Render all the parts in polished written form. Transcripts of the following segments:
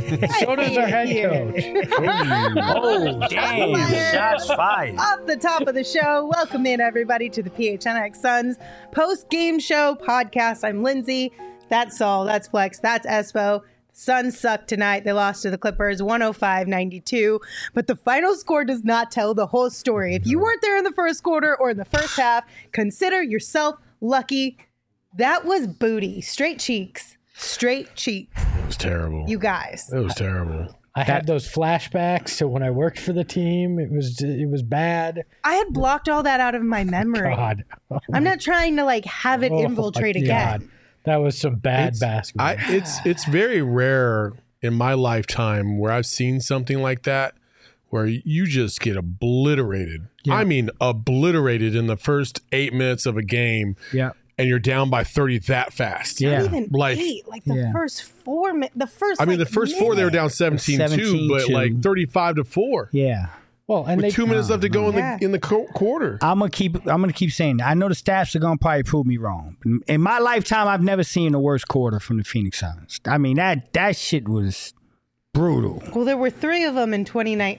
So does our head coach. Oh, damn. Shots fired. Off the top of the show, welcome in everybody to the PHNX Suns post-game show podcast. I'm Lindsay. That's Saul. That's Flex. That's Espo. Suns sucked tonight. They lost to the Clippers 105-92. But the final score does not tell the whole story. If you weren't there in the first quarter or in the first half, consider yourself lucky. That was booty. Straight cheeks. Straight cheeks. It was terrible. You guys. It was terrible. I had those flashbacks to when I worked for the team. It was bad. I had blocked all that out of my memory. God. I'm not trying to have it infiltrate my again. God. That was some bad basketball. It's very rare in my lifetime where I've seen something like that where you just get obliterated. Yeah. I mean, obliterated in the first 8 minutes of a game. Yeah. And you're down by 30 that fast. Yeah. Not even eight. The first 4 minutes. The first four they were down 17-2, but 35-4. Yeah. Well, and with 2 minutes left to go in the quarter. I'm gonna keep saying that. I know the stats are gonna probably prove me wrong. In my lifetime, I've never seen the worst quarter from the Phoenix Suns. I mean that shit was brutal. Well, there were 3 of them in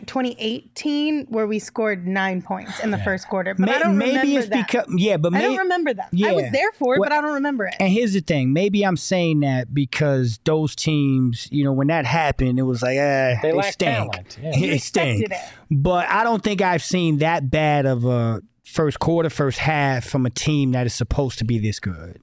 2018 where we scored 9 points in the first quarter. But I don't remember that. I don't remember that. I was there for it, but I don't remember it. And here's the thing. Maybe I'm saying that because those teams, when that happened, it was like, they lack stink. Talent. Yeah. They stink. But I don't think I've seen that bad of a first quarter, first half from a team that is supposed to be this good.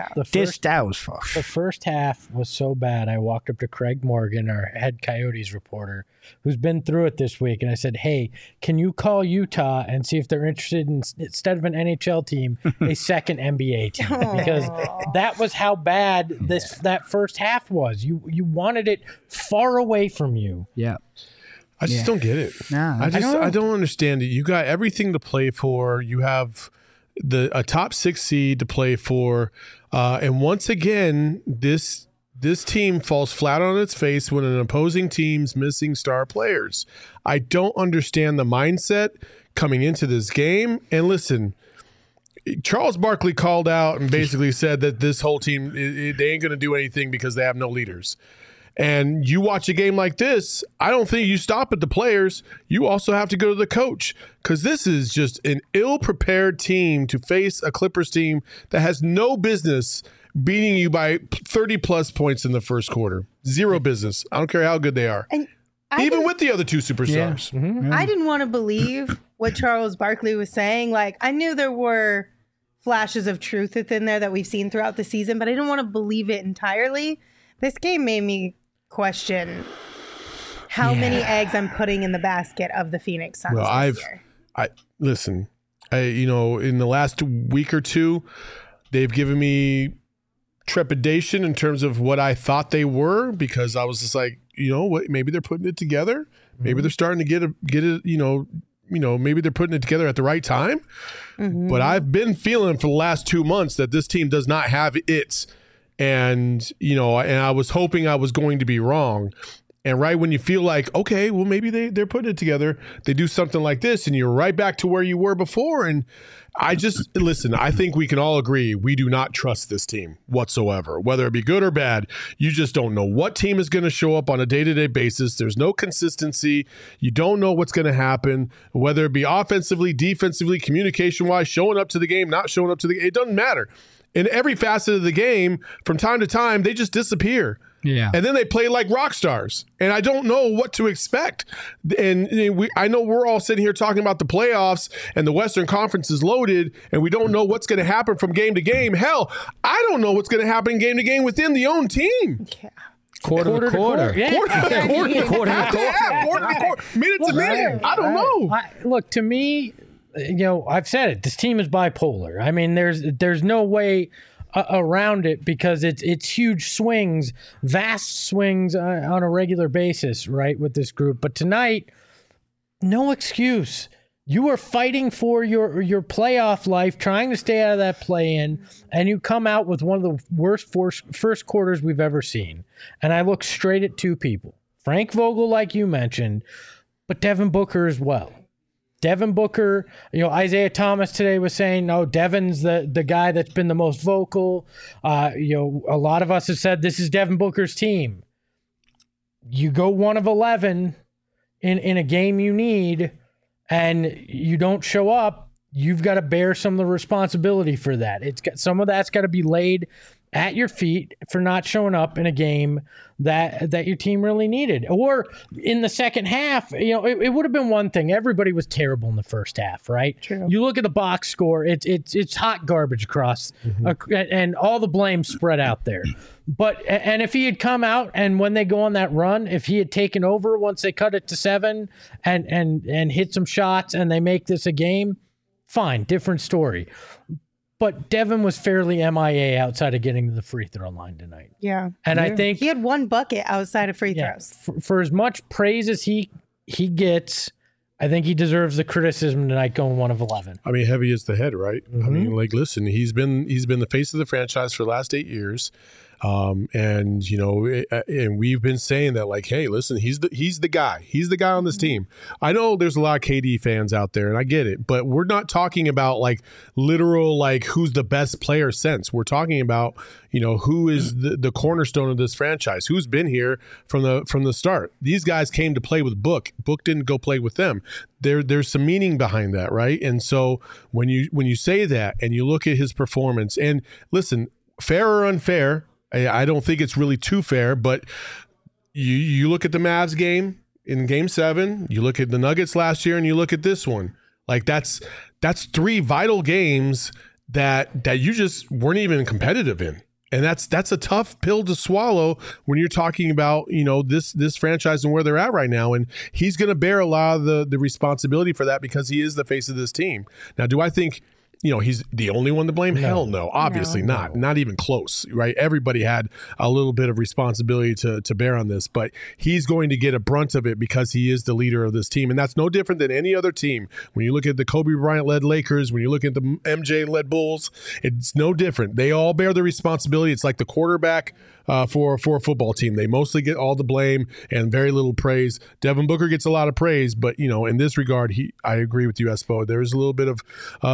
The first half was so bad. I walked up to Craig Morgan, our head Coyotes reporter, who's been through it this week, and I said, "Hey, can you call Utah and see if they're interested in, instead of an NHL team, a second NBA team?" Because that was how bad that first half was. You wanted it far away from you. Yeah. I just don't get it. No, I don't understand it. You got everything to play for. You have a top 6 seed to play for, and once again, this team falls flat on its face when an opposing team's missing star players. I don't understand the mindset coming into this game. And listen, Charles Barkley called out and basically said that this whole team they ain't going to do anything because they have no leaders. And you watch a game like this, I don't think you stop at the players. You also have to go to the coach, because this is just an ill-prepared team to face a Clippers team that has no business beating you by 30-plus points in the first quarter. Zero business. I don't care how good they are. And even with the other 2 superstars. Yeah. Mm-hmm. I didn't want to believe what Charles Barkley was saying. I knew there were flashes of truth within there that we've seen throughout the season, but I didn't want to believe it entirely. This game made me question how many eggs I'm putting in the basket of the Phoenix Suns this year. Listen, in the last week or two, they've given me trepidation in terms of what I thought they were, because I was just like, what? Maybe they're putting it together. Maybe they're starting to get it. Maybe they're putting it together at the right time. Mm-hmm. But I've been feeling for the last 2 months that this team does not have it. And, and I was hoping I was going to be wrong. And right when you feel like, okay, well, maybe they're putting it together, they do something like this and you're right back to where you were before. And I think we can all agree we do not trust this team whatsoever, whether it be good or bad. You just don't know what team is going to show up on a day-to-day basis. There's no consistency. You don't know what's going to happen, whether it be offensively, defensively, communication-wise, showing up to the game, not showing up to the game. It doesn't matter. In every facet of the game, from time to time, they just disappear. Yeah. And then they play like rock stars. And I don't know what to expect. And I know we're all sitting here talking about the playoffs and the Western Conference is loaded and we don't know what's going to happen from game to game. Hell, I don't know what's going to happen game to game within the own team. Yeah. Quarter to quarter. Quarter to quarter. Minute to minute. I don't know. Look, to me, I've said it. This team is bipolar. I mean, there's no way around it, because it's huge swings, vast swings on a regular basis, right, with this group. But tonight, no excuse. You are fighting for your playoff life, trying to stay out of that play-in, and you come out with one of the worst first quarters we've ever seen. And I look straight at 2 people. Frank Vogel, like you mentioned, but Devin Booker as well. Devin Booker, Isaiah Thomas today was saying, no, Devin's the guy that's been the most vocal. A lot of us have said this is Devin Booker's team. you go 1 of 11 in a game you need and you don't show up, you've got to bear some of the responsibility for that. Some of that's got to be laid at your feet for not showing up in a game that your team really needed. Or in the second half, it would have been one thing. Everybody was terrible in the first half, right? True. You look at the box score, it's hot garbage across, and all the blame spread out there. And if he had come out and when they go on that run, if he had taken over once they cut it to 7 and hit some shots and they make this a game, fine, different story. But Devin was fairly MIA outside of getting to the free throw line tonight. Yeah. And I think he had 1 bucket outside of free throws. For as much praise as he gets, I think he deserves the criticism tonight going 1 of 11. I mean, heavy is the head, right? I mean, listen, he's been the face of the franchise for the last 8 years. And we've been saying that, like, hey, listen, he's the guy. He's the guy on this team. I know there's a lot of KD fans out there, and I get it, but we're not talking about like literal, like who's the best player sense. We're talking about, who is the cornerstone of this franchise, who's been here from the start. These guys came to play with Book. Book didn't go play with them. There's some meaning behind that, right? And so when you say that and you look at his performance, and listen, fair or unfair, I don't think it's really too fair, but you look at the Mavs game in Game 7, you look at the Nuggets last year, and you look at this one. Like that's 3 vital games that you just weren't even competitive in. And that's a tough pill to swallow when you're talking about, this franchise and where they're at right now. And he's going to bear a lot of the responsibility for that because he is the face of this team. Now, do I think he's the only one to blame? No. Hell no. Obviously not. Not even close, right? Everybody had a little bit of responsibility to bear on this, but he's going to get a brunt of it because he is the leader of this team. And that's no different than any other team. When you look at the Kobe Bryant-led Lakers, when you look at the MJ-led Bulls, it's no different. They all bear the responsibility. It's like the quarterback for a football team. They mostly get all the blame and very little praise. Devin Booker gets a lot of praise, but in this regard, I agree with you, Espo. There's a little bit of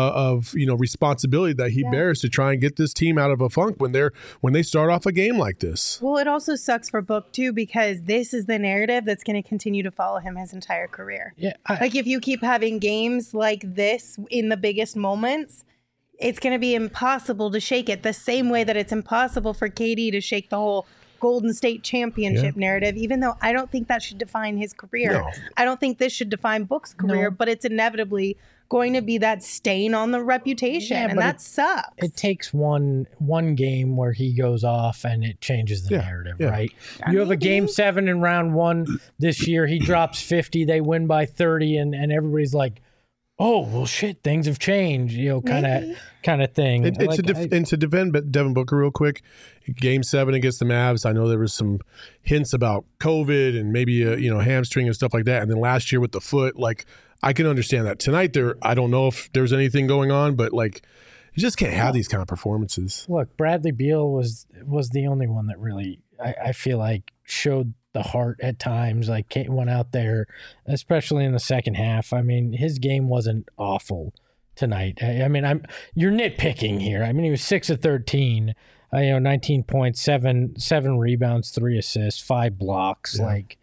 responsibility that he bears to try and get this team out of a funk when they start off a game like this. Well, it also sucks for Book too because this is the narrative that's going to continue to follow him his entire career. Yeah, like if you keep having games like this in the biggest moments, it's going to be impossible to shake it the same way that it's impossible for KD to shake the whole Golden State championship narrative, even though I don't think that should define his career. No. I don't think this should define Book's career, but it's inevitably going to be that stain on the reputation, and that sucks. It takes one game where he goes off and it changes the narrative, right? You have a Game 7 in round 1 this year. He drops 50. They win by 30, and everybody's like, oh, well, shit, things have changed, kind of thing. And to defend Devin Booker real quick, Game 7 against the Mavs, I know there was some hints about COVID and maybe a hamstring and stuff like that. And then last year with the foot, like, I can understand that. Tonight, I don't know if there's anything going on, but like, you just can't have these kind of performances. Look, Bradley Beal was the only one that really, I feel like, showed the heart at times, like went out there, especially in the second half. I mean, his game wasn't awful tonight. I mean, you're nitpicking here. I mean, he was 6 of 13, 19 points, 7 rebounds, 3 assists, 5 blocks. Yeah. Like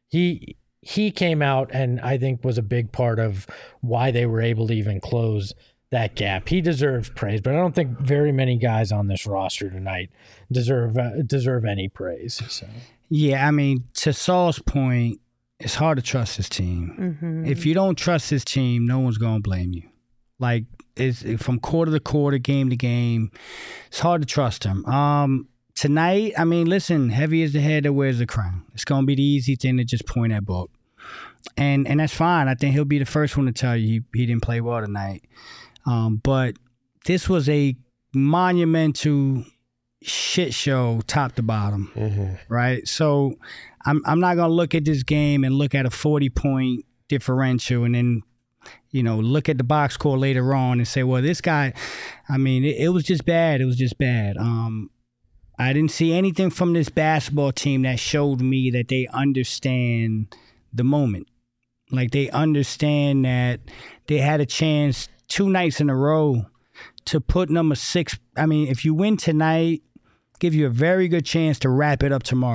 he came out and I think was a big part of why they were able to even close that gap. He deserves praise, but I don't think very many guys on this roster tonight deserve any praise. So. Yeah, I mean, to Saul's point, it's hard to trust his team. Mm-hmm. If you don't trust his team, no one's going to blame you. Like, it's from quarter to quarter, game to game, it's hard to trust him. Tonight, I mean, listen, heavy is the head that wears the crown. It's going to be the easy thing to just point at Book. And that's fine. I think he'll be the first one to tell you he didn't play well tonight. But this was a monumental shit show top to bottom, right? So I'm not going to look at this game and look at a 40-point differential and then, look at the box score later on and say, well, this guy, I mean, it was just bad. It was just bad. I didn't see anything from this basketball team that showed me that they understand the moment. Like, they understand that they had a chance 2 nights in a row to put number 6. I mean, if you win tonight, give you a very good chance to wrap it up tomorrow.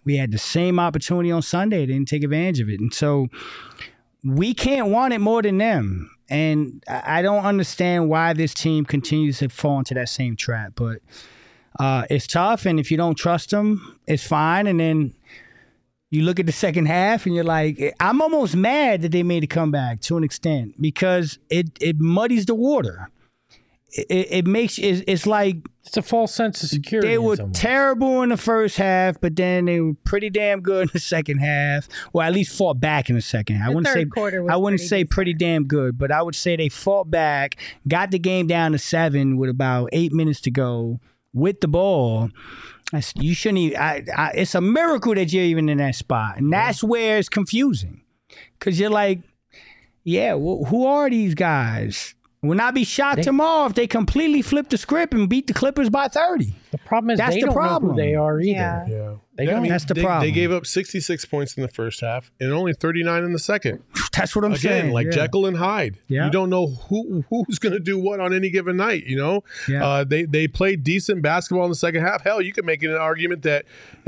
We had the same opportunity on Sunday. They didn't take advantage of it. And so we can't want it more than them. And I don't understand why this team continues to fall into that same trap. But it's tough. And if you don't trust them, it's fine. And then you look at the second half and you're like, I'm almost mad that they made a comeback to an extent because it muddies the water. It makes it's like it's a false sense of security. They were terrible in the first half, but then they were pretty damn good in the second half. Well, at least fought back in the second half. I wouldn't say pretty damn good, but I would say they fought back, got the game down to 7 with about 8 minutes to go with the ball. You shouldn't even. It's a miracle that you're even in that spot, and that's where it's confusing, because you're like, yeah, well, who are these guys? Will not be shocked tomorrow if they completely flip the script and beat the Clippers by 30. The problem is they don't know who they are either. Yeah. That's the problem. They gave up 66 points in the first half and only 39 in the second. That's what I'm saying. Again, like Jekyll and Hyde. Yeah. You don't know who's going to do what on any given night, you know? Yeah. They played decent basketball in the second half. Hell, you could make an argument that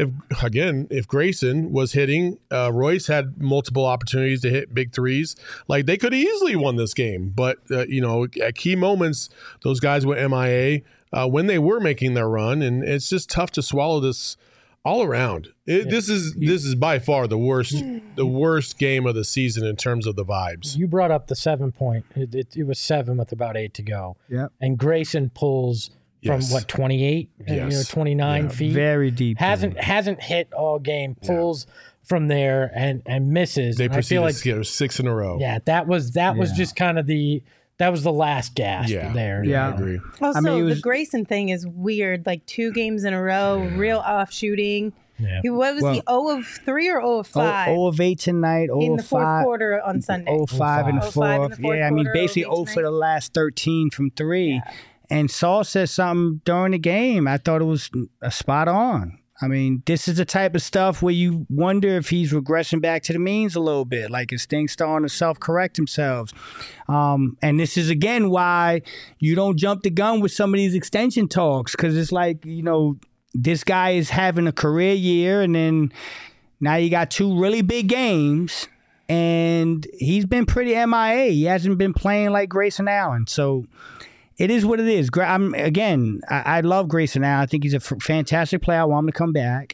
if Grayson was hitting, Royce had multiple opportunities to hit big threes. Like, they could have easily won this game. But, at key moments, those guys went MIA when they were making their run. And it's just tough to swallow this all around. This is by far the worst game of the season in terms of the vibes. You brought up the 7 point. It was 7 with about 8 to go. Yeah. And Grayson pulls from 28, 29 feet. Very deep. Hasn't hit all game. Pulls from there and misses. They proceeded to get 6 in a row. Yeah, that was just kind of the last gasp there. Yeah, I agree. Also, the Grayson thing is weird. Like 2 games in a row, real off shooting. Yeah. What was he, 0 of 3 or 0 of 5? 0 of 8 tonight, 0 in the fourth quarter on Sunday. 0 of 5 in the fourth. Yeah, I mean, basically 0 for the last 13 from 3. Yeah. And Saul said something during the game. I thought it was spot on. I mean, this is the type of stuff where you wonder if he's regressing back to the means a little bit, like his things starting to self-correct themselves. And this is, again, why you don't jump the gun with some of these extension talks, because it's like, this guy is having a career year, and then now you got 2 really big games, and he's been pretty MIA. He hasn't been playing like Grayson Allen. So it is what it is. I love Grayson Allen. I think he's a fantastic player. I want him to come back.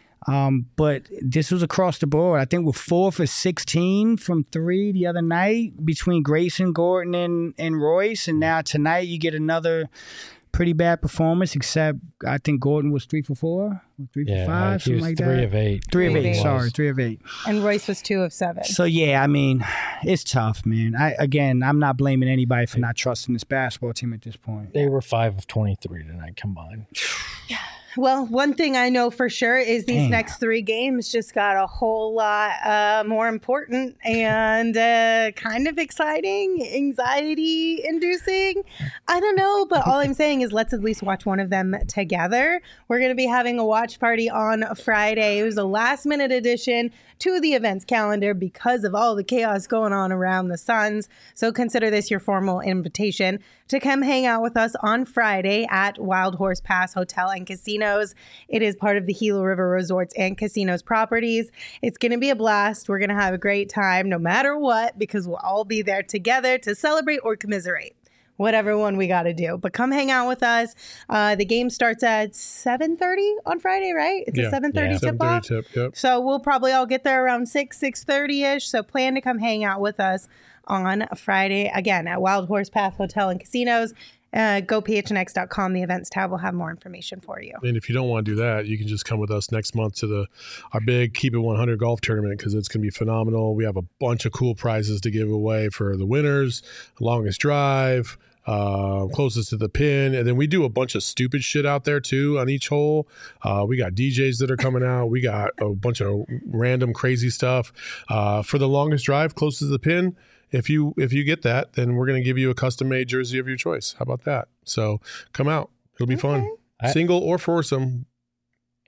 But this was across the board. I think we're 4 for 16 from 3 the other night between Grayson, Gordon, and Royce. And now tonight you get another pretty bad performance, except I think Gordon was 3 for 4, 3 for 5, something like that. 3 of 8. 3 of 8. Sorry, 3 of 8. And Royce was 2 of 7. So yeah, I mean, it's tough, man. I'm not blaming anybody for not trusting this basketball team at this point. They were 5 of 23 tonight combined. Yeah. Well, one thing I know for sure is these next 3 games just got a whole lot more important and kind of exciting, anxiety-inducing. I don't know, but all I'm saying is let's at least watch one of them together. We're going to be having a watch party on Friday. It was a last-minute addition to the events calendar because of all the chaos going on around the Suns. So consider this your formal invitation to come hang out with us on Friday at Wild Horse Pass Hotel and Casinos. It is part of the Gila River Resorts and Casinos properties. It's going to be a blast. We're going to have a great time no matter what, because we'll all be there together to celebrate or commiserate. Whatever one we got to do. But come hang out with us. The game starts at 7:30 on Friday, right? It's a 7:30 tip-off. Yep. So we'll probably all get there around 6:30-ish. So plan to come hang out with us on Friday, again, at Wild Horse Path Hotel and Casinos. Go phnx.com. The events tab will have more information for you. And if you don't want to do that, you can just come with us next month to our big Keep It 100 golf tournament, because it's going to be phenomenal. We have a bunch of cool prizes to give away for the winners, longest drive, closest to the pin, and then we do a bunch of stupid shit out there too on each hole. We got DJs that are coming out. We got a bunch of random crazy stuff for the longest drive, closest to the pin. If you get that, then we're going to give you a custom-made jersey of your choice. How about that? So come out. It'll be fun. Single or foursome.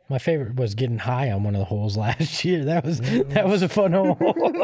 My favorite was getting high on one of the holes last year. That was a fun hole.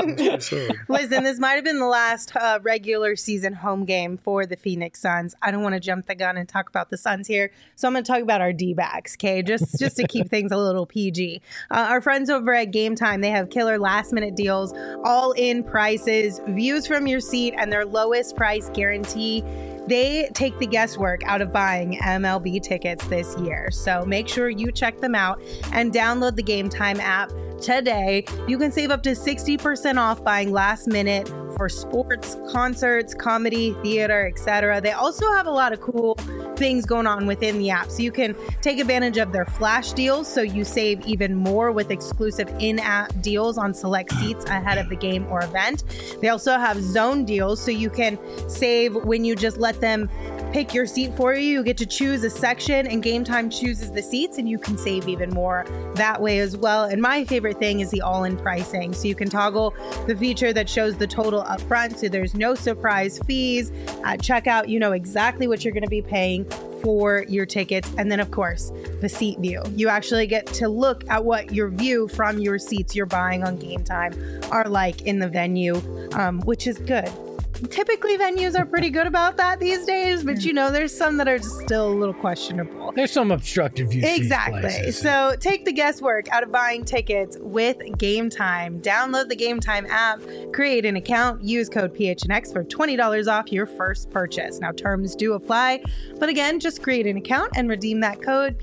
Listen, this might have been the last regular season home game for the Phoenix Suns. I don't want to jump the gun and talk about the Suns here, so I'm going to talk about our D-backs, okay? Just to keep things a little PG. Our friends over at Game Time, they have killer last-minute deals, all-in prices, views from your seat, and their lowest price guarantee. They take the guesswork out of buying MLB tickets this year. So make sure you check them out and download the Game Time app today. You can save up to 60% off buying last minute for sports, concerts, comedy, theater, etc. They also have a lot of cool things going on within the app. So you can take advantage of their flash deals so you save even more with exclusive in-app deals on select seats ahead of the game or event. They also have zone deals so you can save when you just let them pick your seat for you. You get to choose a section and Game Time chooses the seats and you can save even more that way as well. And my favorite thing is the all-in pricing. So you can toggle the feature that shows the total up front so there's no surprise fees. At checkout, you know exactly what you're going to be paying for your tickets. And then, of course, the seat view. You actually get to look at what your view from your seats you're buying on Game Time are like in the venue, which is good. Typically, venues are pretty good about that these days, but you know, there's some that are just still a little questionable. There's some obstructive view. Exactly. So take the guesswork out of buying tickets with Game Time. Download the Game Time app, create an account, use code PHNX for $20 off your first purchase. Now, terms do apply, but again, just create an account and redeem that code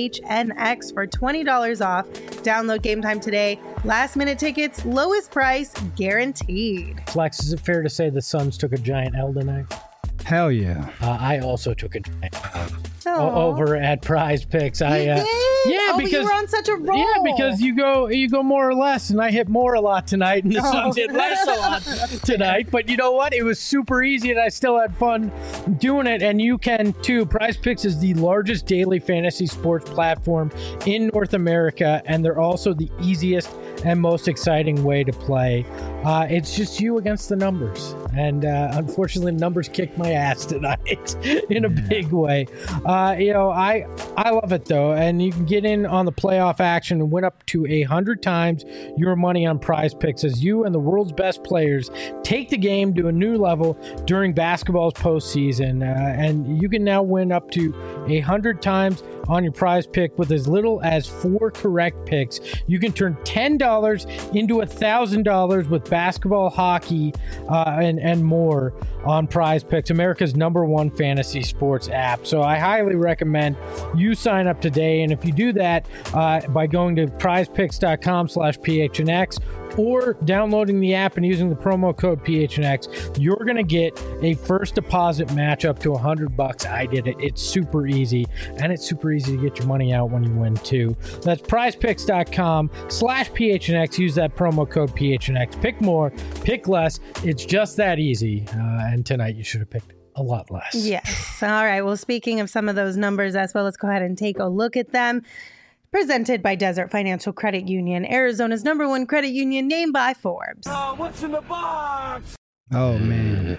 PHNX for $20 off. Download Game Time today. Last minute tickets, lowest price guaranteed. Flex, is it fair to say the Suns took a giant L tonight? Hell yeah. I also took a giant L over at Prize Picks. Yeah, because you were on such a roll. Yeah, because you go more or less, and I hit more a lot tonight, and the Suns hit less a lot tonight. But you know what? It was super easy, and I still had fun doing it, and you can too. Prize Picks is the largest daily fantasy sports platform in North America, and they're also the easiest and most exciting way to play. It's just you against the numbers, and unfortunately, the numbers kicked my ass tonight in a big way. I love it though, and you can get in on the playoff action and win up to 100 times your money on Prize Picks as you and the world's best players take the game to a new level during basketball's postseason, and you can now win up to 100 times on your Prize Pick with as little as 4 correct picks. You can turn $10 into $1,000 with basketball, hockey, and more on Prize Picks, America's #1 fantasy sports app. So I highly recommend you sign up today. And if you do that by going to prizepicks.com/PHNX or downloading the app and using the promo code PHNX, you're going to get a first deposit match up to $100. I did it. It's super easy, and it's super easy to get your money out when you win too. That's prizepicks.com/PHNX. Use that promo code PHNX. Pick more, pick less. It's just that easy. And tonight you should have picked a lot less. Yes. All right. Well, speaking of some of those numbers as well, let's go ahead and take a look at them. Presented by Desert Financial Credit Union, Arizona's #1 credit union, named by Forbes. What's in the box? Oh, man.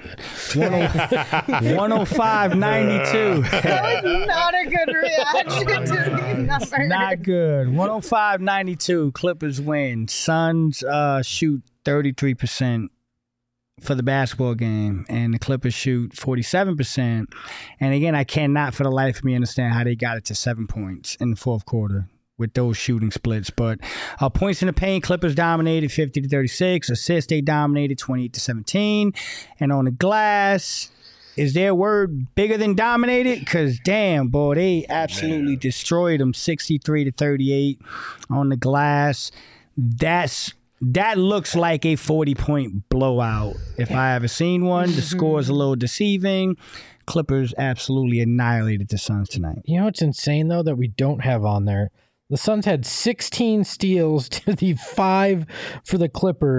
105.92. That was not a good reaction to these numbers. Not good. 105.92. Clippers win. Suns shoot 33% for the basketball game, and the Clippers shoot 47%. And again, I cannot for the life of me understand how they got it to 7 points in the fourth quarter with those shooting splits. But points in the paint, Clippers dominated 50-36. Assists, they dominated 28-17. And on the glass, is their word bigger than dominated? Because damn, boy, they absolutely destroyed them 63-38 on the glass. That looks like a 40-point blowout if I ever seen one. The score is a little deceiving. Clippers absolutely annihilated the Suns tonight. You know what's insane, though, that we don't have on there? The Suns had 16 steals to the 5 for the Clippers.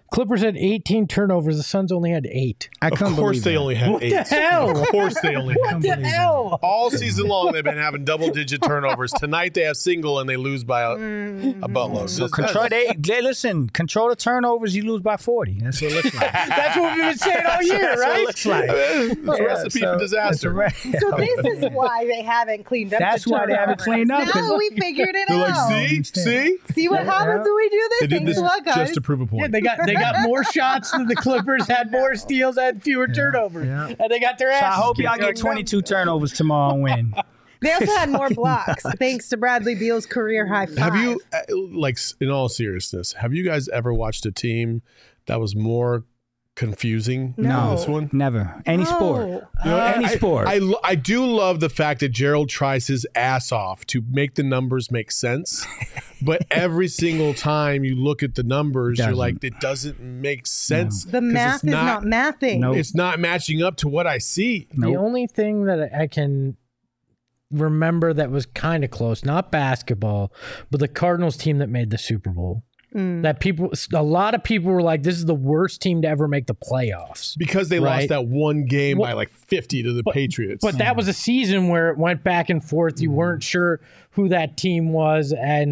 Clippers had 18 turnovers. The Suns only had 8. I Of couldn't course believe they that. only had What 8. the hell? Of course they only had What the hell? All season long, they've been having double-digit turnovers. Tonight they have single and they lose by a buttload. So control listen, control the turnovers, you lose by 40. That's what it looks like. That's what we've been saying all year, That's what it right? looks like. It's a recipe for disaster. So this is why they haven't cleaned up. That's the why they haven't turnovers. cleaned up. Now we figured it They're out. like, see? See what happens when we do They this? did Thanks this a lot, guys. just to prove a point. Yeah, they got more shots than the Clippers, had more steals, had fewer turnovers. Yeah. And they got their So asses I hope kicked. y'all get 22 turnovers tomorrow and win. They also had more blocks, thanks to Bradley Beal's career high 5. Have you, like, in all seriousness, have you guys ever watched a team that was more confusing No. than this one? Never. Any sport. No. You know, Any sport. I do love the fact that Gerald tries his ass off to make the numbers make sense, but every single time you look at the numbers, you're Doesn't. like, it doesn't make sense. The 'cause math it's is not mathing. Nope. It's not matching up to what I see. The Nope. only thing that I can remember that was kind of close, not basketball, but the Cardinals team that made the Super Bowl. That a lot of people were like, this is the worst team to ever make the playoffs. Because they Right. lost that one game by Well, like 50 to the Patriots. But that was a season where it went back and forth. You weren't sure who that team was,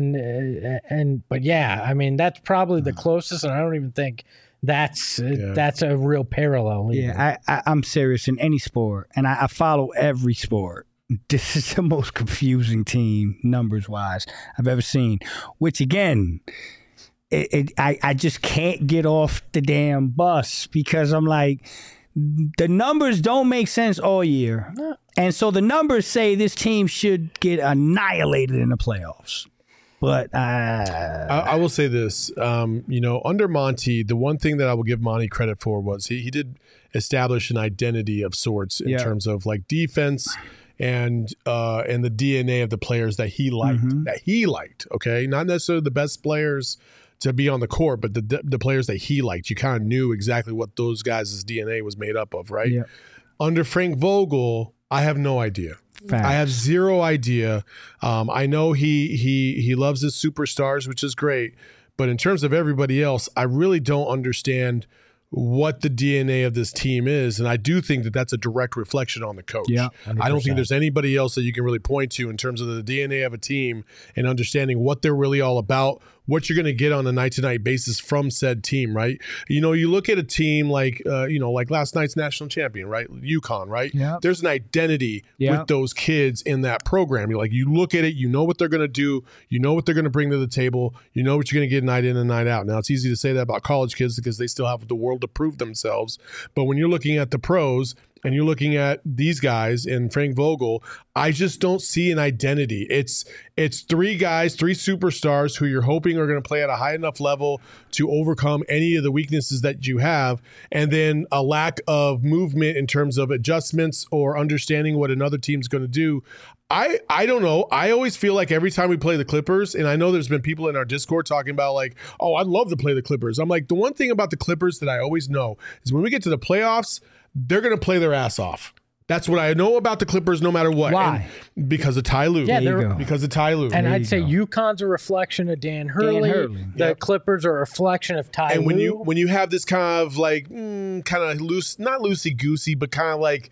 but yeah, I mean that's probably the closest, and I don't even think that's a real parallel. Either. Yeah, I'm serious in any sport, and I follow every sport. This is the most confusing team, numbers-wise, I've ever seen. Which, again, I just can't get off the damn bus because I'm like, the numbers don't make sense all year. And so the numbers say this team should get annihilated in the playoffs. But I will say this, under Monty, the one thing that I will give Monty credit for was he did establish an identity of sorts in terms of like defense and the DNA of the players that he liked. Okay, not necessarily the best players to be on the court, but the players that he liked. You kind of knew exactly what those guys' DNA was made up of, right? Yeah. Under Frank Vogel, I have no idea. Facts. I have zero idea. I know he loves his superstars, which is great. But in terms of everybody else, I really don't understand what the DNA of this team is. And I do think that that's a direct reflection on the coach. Yeah, I don't think there's anybody else that you can really point to in terms of the DNA of a team and understanding what they're really all about, what you're going to get on a night-to-night basis from said team, right? You know, you look at a team like, like last night's national champion, right? UConn, right? Yeah. There's an identity Yeah. with those kids in that program. You look at it, you know what they're going to do, you know what they're going to bring to the table, you know what you're going to get night in and night out. Now, it's easy to say that about college kids because they still have the world to prove themselves. But when you're looking at the pros, and you're looking at these guys and Frank Vogel, I just don't see an identity. It's three guys, three superstars who you're hoping are going to play at a high enough level to overcome any of the weaknesses that you have, and then a lack of movement in terms of adjustments or understanding what another team's going to do. I don't know. I always feel like every time we play the Clippers, and I know there's been people in our Discord talking about like, oh, I'd love to play the Clippers. I'm like, the one thing about the Clippers that I always know is when we get to the playoffs, they're going to play their ass off. That's what I know about the Clippers no matter what. Why? And because of Ty Lue. Yeah, There you go. Because of Ty Lue. And There I'd you say go. UConn's a reflection of Dan Hurley. Hurley. The Clippers are a reflection of Ty And when Lue. you have this kind of like kind of loose, not loosey goosey, but kind of like,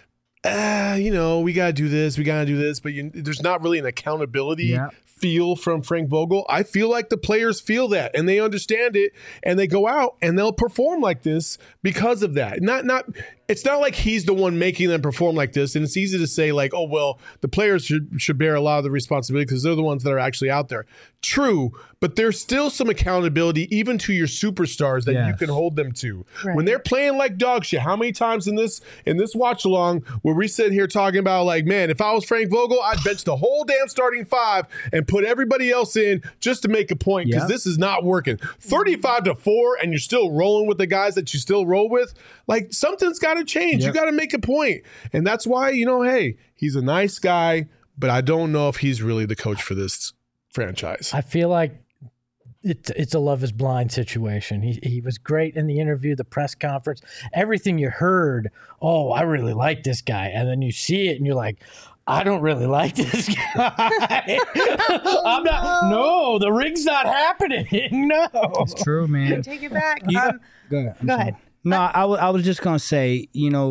we gotta do this, but there's not really an accountability feel from Frank Vogel. I feel like the players feel that and they understand it, and they go out and they'll perform like this because of that. It's not like he's the one making them perform like this, and it's easy to say like, oh well, the players should bear a lot of the responsibility because they're the ones that are actually out there. True, but there's still some accountability even to your superstars that you can hold them to. Right. When they're playing like dog shit, how many times in this watch along where we sit here talking about like, man, if I was Frank Vogel, I'd bench the whole damn starting five and put everybody else in just to make a point because this is not working. 35-4 and you're still rolling with the guys that you still roll with. Like something's got to change. You got to make a point. And that's why, hey, he's a nice guy, but I don't know if he's really the coach for this franchise. I feel like it's a Love is Blind situation. He was great in the interview, the press conference, everything you heard. Oh, I really like this guy. And then you see it and you're like, I don't really like this guy. I'm not. No, the ring's not happening. No, It's true, man. Take it back. Go ahead. I'm Go sorry. ahead. No, I was just gonna say,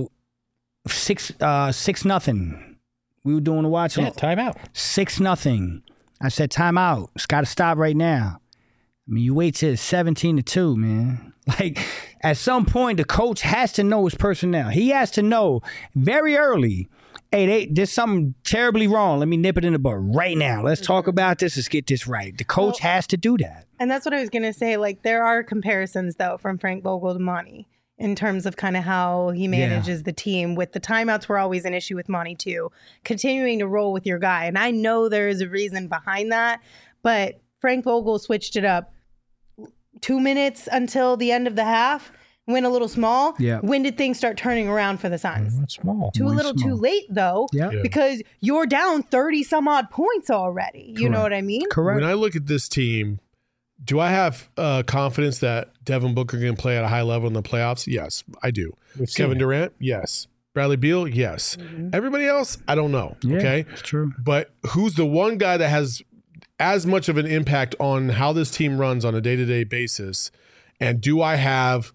6-0. We were doing the watch. yeah, timeout. 6-0. I said timeout. It's got to stop right now. I mean, you wait till it's 17-2, man. Like, at some point, the coach has to know his personnel. He has to know very early, hey, there's something terribly wrong. Let me nip it in the bud right now. Let's talk about this. Let's get this right. The coach has to do that. And that's what I was going to say. Like, there are comparisons, though, from Frank Vogel to Monty in terms of kind of how he manages the team. With the timeouts were always an issue with Monty, too. Continuing to roll with your guy. And I know there is a reason behind that, but Frank Vogel switched it up 2 minutes until the end of the half, went a little small. Yeah. When did things start turning around for the Suns? It's small. Too little small. too late, though, Yeah. because you're down 30 some odd points already. You know what I mean? Correct. When I look at this team, do I have confidence that Devin Booker can play at a high level in the playoffs? Yes, I do. We've seen Kevin it. Durant? Yes. Bradley Beal? Yes. Everybody else? I don't know. Yeah, Okay. it's true. But who's the one guy that has as much of an impact on how this team runs on a day-to-day basis? And do I have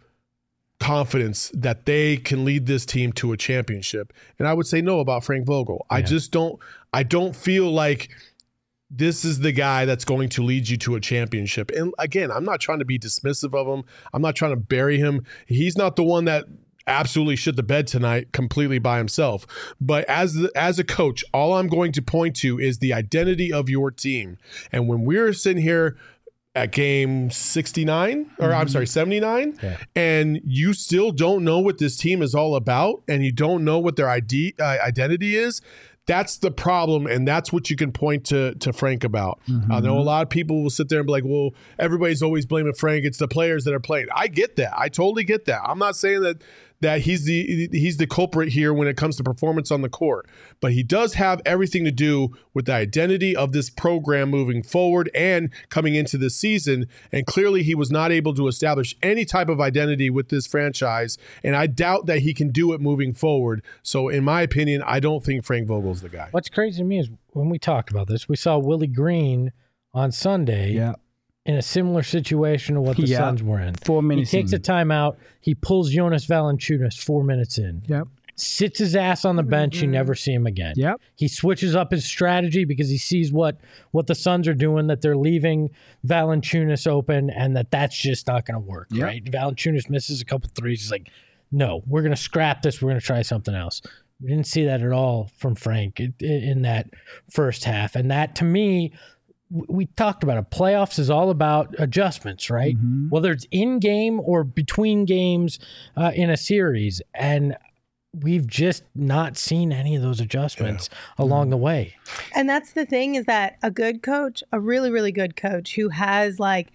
confidence that they can lead this team to a championship? And I would say no about Frank Vogel. I just don't feel like this is the guy that's going to lead you to a championship. And again, I'm not trying to be dismissive of him. I'm not trying to bury him. He's not the one that absolutely shit the bed tonight completely by himself. But as a coach, all I'm going to point to is the identity of your team. And when we're sitting here at game 69, or I'm sorry, 79, and you still don't know what this team is all about, and you don't know what their identity is, that's the problem, and that's what you can point to Frank about. I know a lot of people will sit there and be like, well, everybody's always blaming Frank. It's the players that are playing. I get that. I totally get that. I'm not saying that he's the culprit here when it comes to performance on the court. But he does have everything to do with the identity of this program moving forward and coming into this season. And clearly he was not able to establish any type of identity with this franchise. And I doubt that he can do it moving forward. So in my opinion, I don't think Frank Vogel's the guy. What's crazy to me is when we talked about this, we saw Willie Green on Sunday in a similar situation to what the Suns were in. 4 minutes He takes in. a timeout. He pulls Jonas Valanciunas 4 minutes in. Yep. Sits his ass on the bench. You never see him again. Yep. He switches up his strategy because he sees what the Suns are doing, that they're leaving Valanciunas open, and that's just not going to work, right? Valanciunas misses a couple threes. He's like, no, we're going to scrap this. We're going to try something else. We didn't see that at all from Frank in that first half. And that, to me, we talked about it. Playoffs is all about adjustments, right? Whether it's in game or between games in a series. And we've just not seen any of those adjustments along the way. And that's the thing, is that a good coach, a really, really good coach who has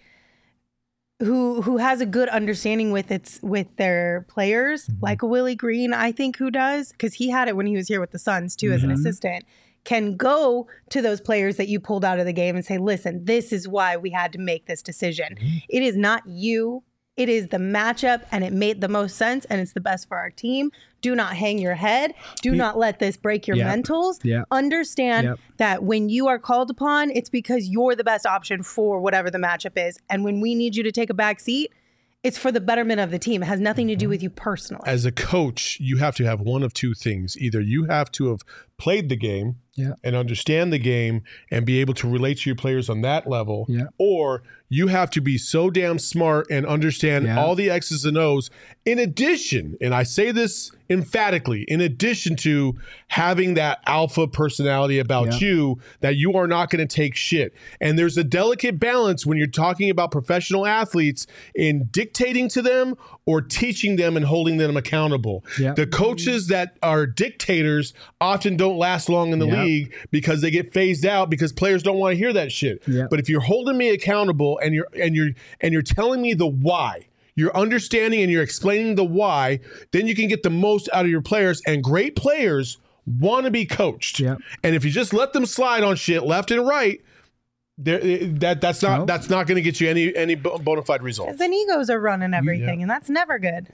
who has a good understanding with their players, like a Willie Green, I think, who does, because he had it when he was here with the Suns too as an assistant, can go to those players that you pulled out of the game and say, listen, this is why we had to make this decision. It is not you. It is the matchup, and it made the most sense, and it's the best for our team. Do not hang your head. Do not let this break your mentals. Understand that when you are called upon, it's because you're the best option for whatever the matchup is. And when we need you to take a back seat, it's for the betterment of the team. It has nothing to do with you personally. As a coach, you have to have one of two things. Either you have to have played the game and understand the game and be able to relate to your players on that level, or you have to be so damn smart and understand all the X's and O's. In addition, and I say this emphatically, in addition to having that alpha personality about you, that you are not going to take shit. And there's a delicate balance when you're talking about professional athletes in dictating to them or teaching them and holding them accountable. The coaches that are dictators often don't last long in the league because they get phased out because players don't want to hear that shit. But if you're holding me accountable and you're telling me the why, you're understanding and you're explaining the why, then you can get the most out of your players. And great players want to be coached. And if you just let them slide on shit left and right, that's not going to get you any bona fide results. Because then egos are running everything, and that's never good.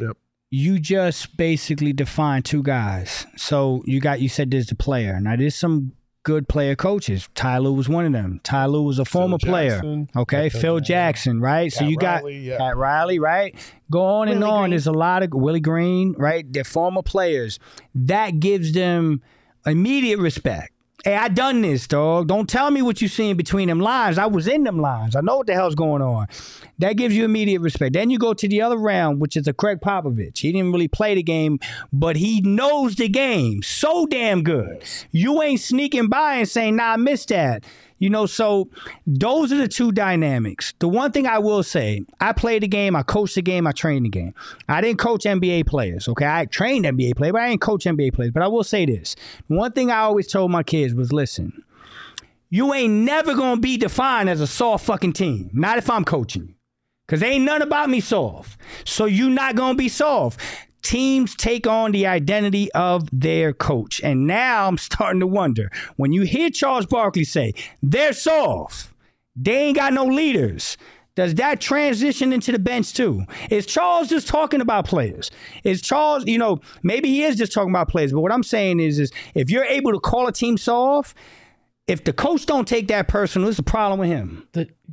you just basically define two guys. So you said there's the player. Now there's some good player coaches. Ty Lue was one of them. Ty Lue was a former player. Okay, Phil Jackson, right? So you got Pat Riley, right? Go on and on. There's a lot of Willie Green, right? They're former players. That gives them immediate respect. Hey, I done this, dog. Don't tell me what you seen between them lines. I was in them lines. I know what the hell's going on. That gives you immediate respect. Then you go to the other round, which is a Craig Popovich. He didn't really play the game, but he knows the game so damn good. You ain't sneaking by and saying, nah, I missed that. You know, so those are the two dynamics. The one thing I will say, I played the game, I coached the game, I trained the game. I didn't coach NBA players, okay? I trained NBA players, but I didn't coach NBA players. But I will say this. One thing I always told my kids was, listen, you ain't never going to be defined as a soft fucking team. Not if I'm coaching you. Because ain't none about me soft. So you not going to be soft. Teams take on the identity of their coach. And now I'm starting to wonder, when you hear Charles Barkley say, they're soft, they ain't got no leaders, does that transition into the bench too? Is Charles just talking about players? Is Charles, maybe he is just talking about players, but what I'm saying is if you're able to call a team soft, if the coach don't take that personal, there's a problem with him.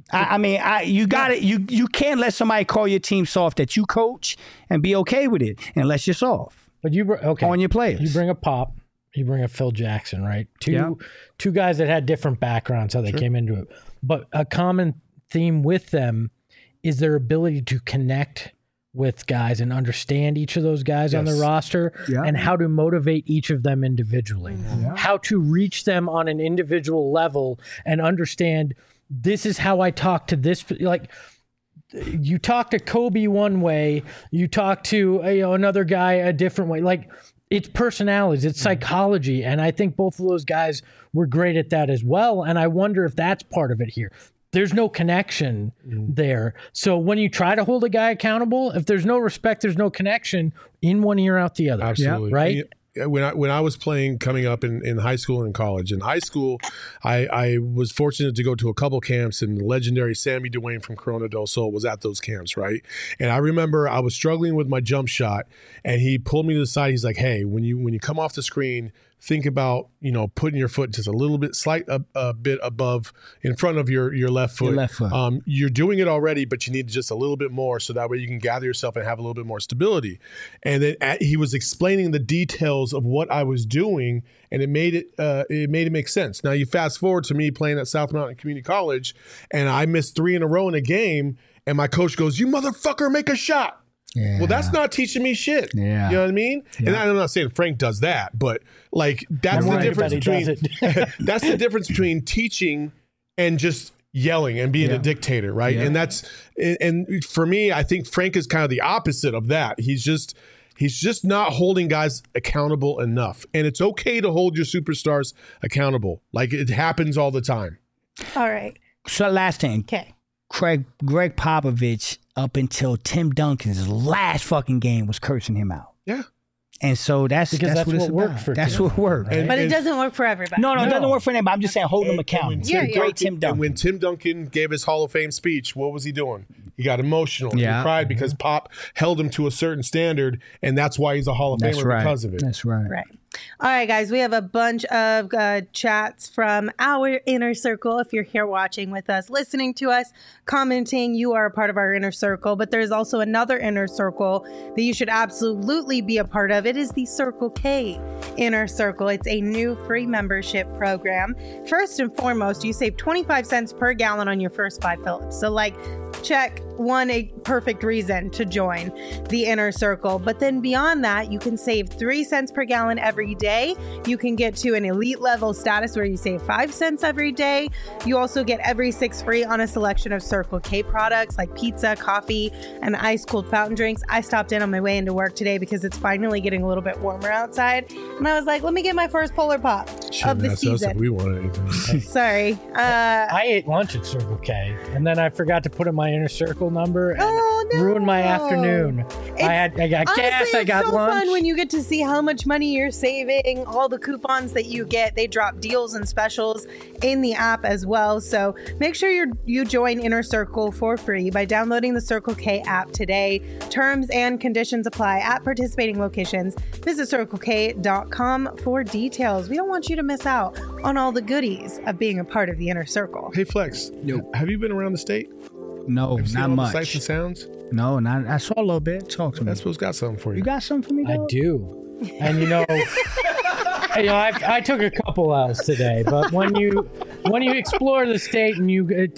You got it. You can't let somebody call your team soft that you coach and be okay with it unless you're soft. But on your players. You bring a Pop, you bring a Phil Jackson, right? Two guys that had different backgrounds, how they came into it. But a common theme with them is their ability to connect with guys and understand each of those guys on the roster and how to motivate each of them individually, how to reach them on an individual level and understand this is how I talk to this. Like, you talk to Kobe one way, you talk to another guy a different way. Like, it's personalities, it's psychology. And I think both of those guys were great at that as well. And I wonder if that's part of it here. There's no connection there. So when you try to hold a guy accountable, if there's no respect, there's no connection, in one ear, out the other. Absolutely. Right? When I was playing coming up in high school and college, in high school, I was fortunate to go to a couple camps, and the legendary Sammy Dwayne from Corona del Sol was at those camps, right? And I remember I was struggling with my jump shot, and he pulled me to the side. He's like, hey, when you come off the screen, think about, putting your foot just a little bit, a bit above, in front of your left foot. Your left foot. You're doing it already, but you need just a little bit more, so that way you can gather yourself and have a little bit more stability. And then he was explaining the details of what I was doing, and it made it make sense. Now you fast forward to me playing at South Mountain Community College, and I missed 3 in a row in a game, and my coach goes, "You motherfucker, make a shot." Yeah. Well, that's not teaching me shit. Yeah. You know what I mean? Yeah. And I'm not saying Frank does that, but like that's the difference between that's the difference between teaching and just yelling and being a dictator, right? Yeah. And for me, I think Frank is kind of the opposite of that. He's just not holding guys accountable enough. And it's okay to hold your superstars accountable. Like, it happens all the time. All right. So last thing. Okay. Greg Popovich, up until Tim Duncan's last fucking game, was cursing him out. Yeah. And so that's what it's worked for That's Tim. what worked. But it doesn't work for everybody. No, it doesn't work for anybody. I'm just saying, hold him accountable. Great Tim Duncan. And when Tim Duncan gave his Hall of Fame speech, what was he doing? He got emotional. He cried because Pop held him to a certain standard, and that's why he's a Hall of Famer because of it. That's right. Right. All right, guys, we have a bunch of chats from our inner circle. If you're here watching with us, listening to us, commenting, you are a part of our inner circle. But there's also another inner circle that you should absolutely be a part of. It is the Circle K Inner Circle. It's a new free membership program. First and foremost, you save 25 cents per gallon on your first 5 fills. So, check a perfect reason to join the inner circle. But then beyond that, you can save 3 cents per gallon every day. You can get to an elite level status where you save 5 cents every day. You also get every 6 free on a selection of Circle K products like pizza, coffee, and ice cold fountain drinks. I stopped in on my way into work today because it's finally getting a little bit warmer outside. And I was like, let me get my first Polar Pop of the season. We wanted anything. Sorry. I ate lunch at Circle K, and then I forgot to put in my inner circle circle number and no. ruined my afternoon. I got gas, I got it's so lunch. fun when you get to see how much money you're saving, all the coupons that you get. They drop deals and specials in the app as well. So make sure you join Inner Circle for free by downloading the Circle K app today. Terms and conditions apply at participating locations. Visit CircleK.com for details. We don't want you to miss out on all the goodies of being a part of the Inner Circle. Hey, Flex. Yo. Have you been around the state? No, Have you seen not all the much. sights and sounds? No, not. I saw a little bit. Talk to me. That's what's got something for you. You got something for me, I dog? do. And I took a couple L's today, but when you explore the state and you work with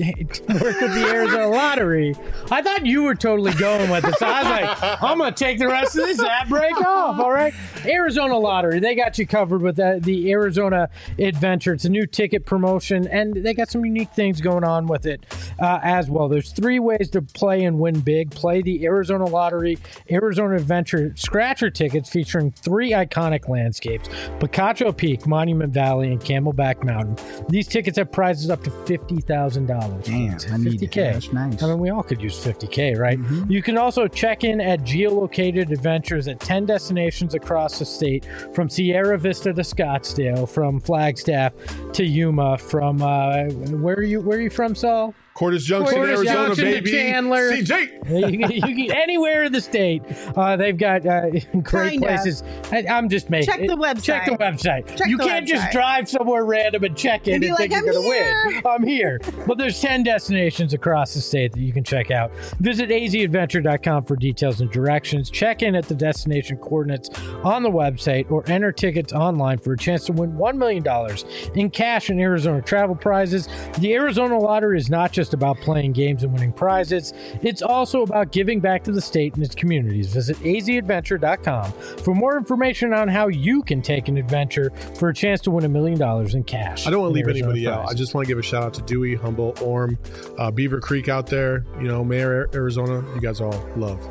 the Arizona Lottery, I thought you were totally going with it. So I was like, I'm going to take the rest of this ad break off, all right? Arizona Lottery, they got you covered with the Arizona Adventure. It's a new ticket promotion, and they got some unique things going on with it as well. There's 3 ways to play and win big. Play the Arizona Lottery Arizona Adventure Scratcher tickets featuring 3 iconic landscapes, Picacho Peak, Monument Valley, and Camelback Mountain. These tickets have prizes up to $50,000. Damn, I need 50K. that. That's nice. I mean, we all could use 50K, right? You can also check in at geolocated adventures at 10 destinations across the state, from Sierra Vista to Scottsdale, from Flagstaff to Yuma, from where are you from, Saul? Cordes Junction, Cordes Arizona, Junction to baby. Chandler. CJ. you can anywhere in the state. They've got great Kinda. places. I'm just making Check the website. Check the website. Check you the can't just website. drive somewhere random and check it And and be think like, you're "I'm going to here." win. I'm here. But there's 10 destinations across the state that you can check out. Visit azadventure.com for details and directions. Check in at the destination coordinates on the website or enter tickets online for a chance to win $1 million in cash and Arizona travel prizes. The Arizona Lottery is not just about playing games and winning prizes. It's also about giving back to the state and its communities. Visit azadventure.com for more information on how you can take an adventure for a chance to win $1 million in cash. I don't want to and leave Arizona anybody out. I prizes. just want to give a shout out to Dewey, Humboldt, Orem, Beaver Creek out there. Mayor Arizona. You guys all love.